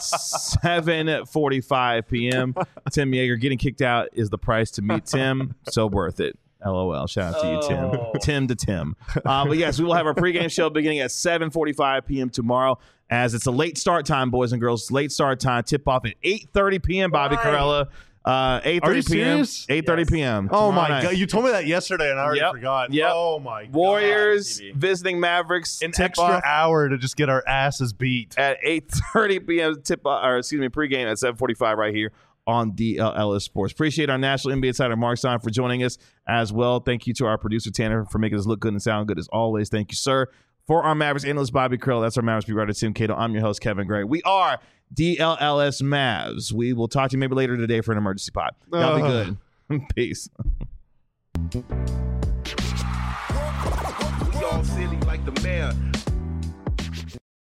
7:45 p.m. Tim Yeager getting kicked out is the price to meet Tim. So worth it. LOL. Shout out to you, Tim. Tim to Tim. But yes, we will have our pregame show beginning at 7:45 p.m. tomorrow, as it's a late start time, boys and girls. Late start time. Tip off at 8:30 p.m. Bobby Carella. 8:30 p.m. 8:30 p.m.
Oh my God! You told me that yesterday, and I already forgot.
Yep.
Oh my God!
Warriors visiting Mavericks.
An extra hour to just get our asses beat
at 8:30 p.m. Pregame at 7:45 right here on DLS Sports. Appreciate our national NBA insider Mark Stein for joining us as well. Thank you to our producer Tanner for making us look good and sound good as always. Thank you, sir. For our Mavericks analyst Bobby Krill, that's our Mavericks beat writer Tim Cato. I'm your host Kevin Gray. We are DLS Mavs. We will talk to you maybe later today for an emergency pod. Y'all be good. Peace.
We all silly like the mayor.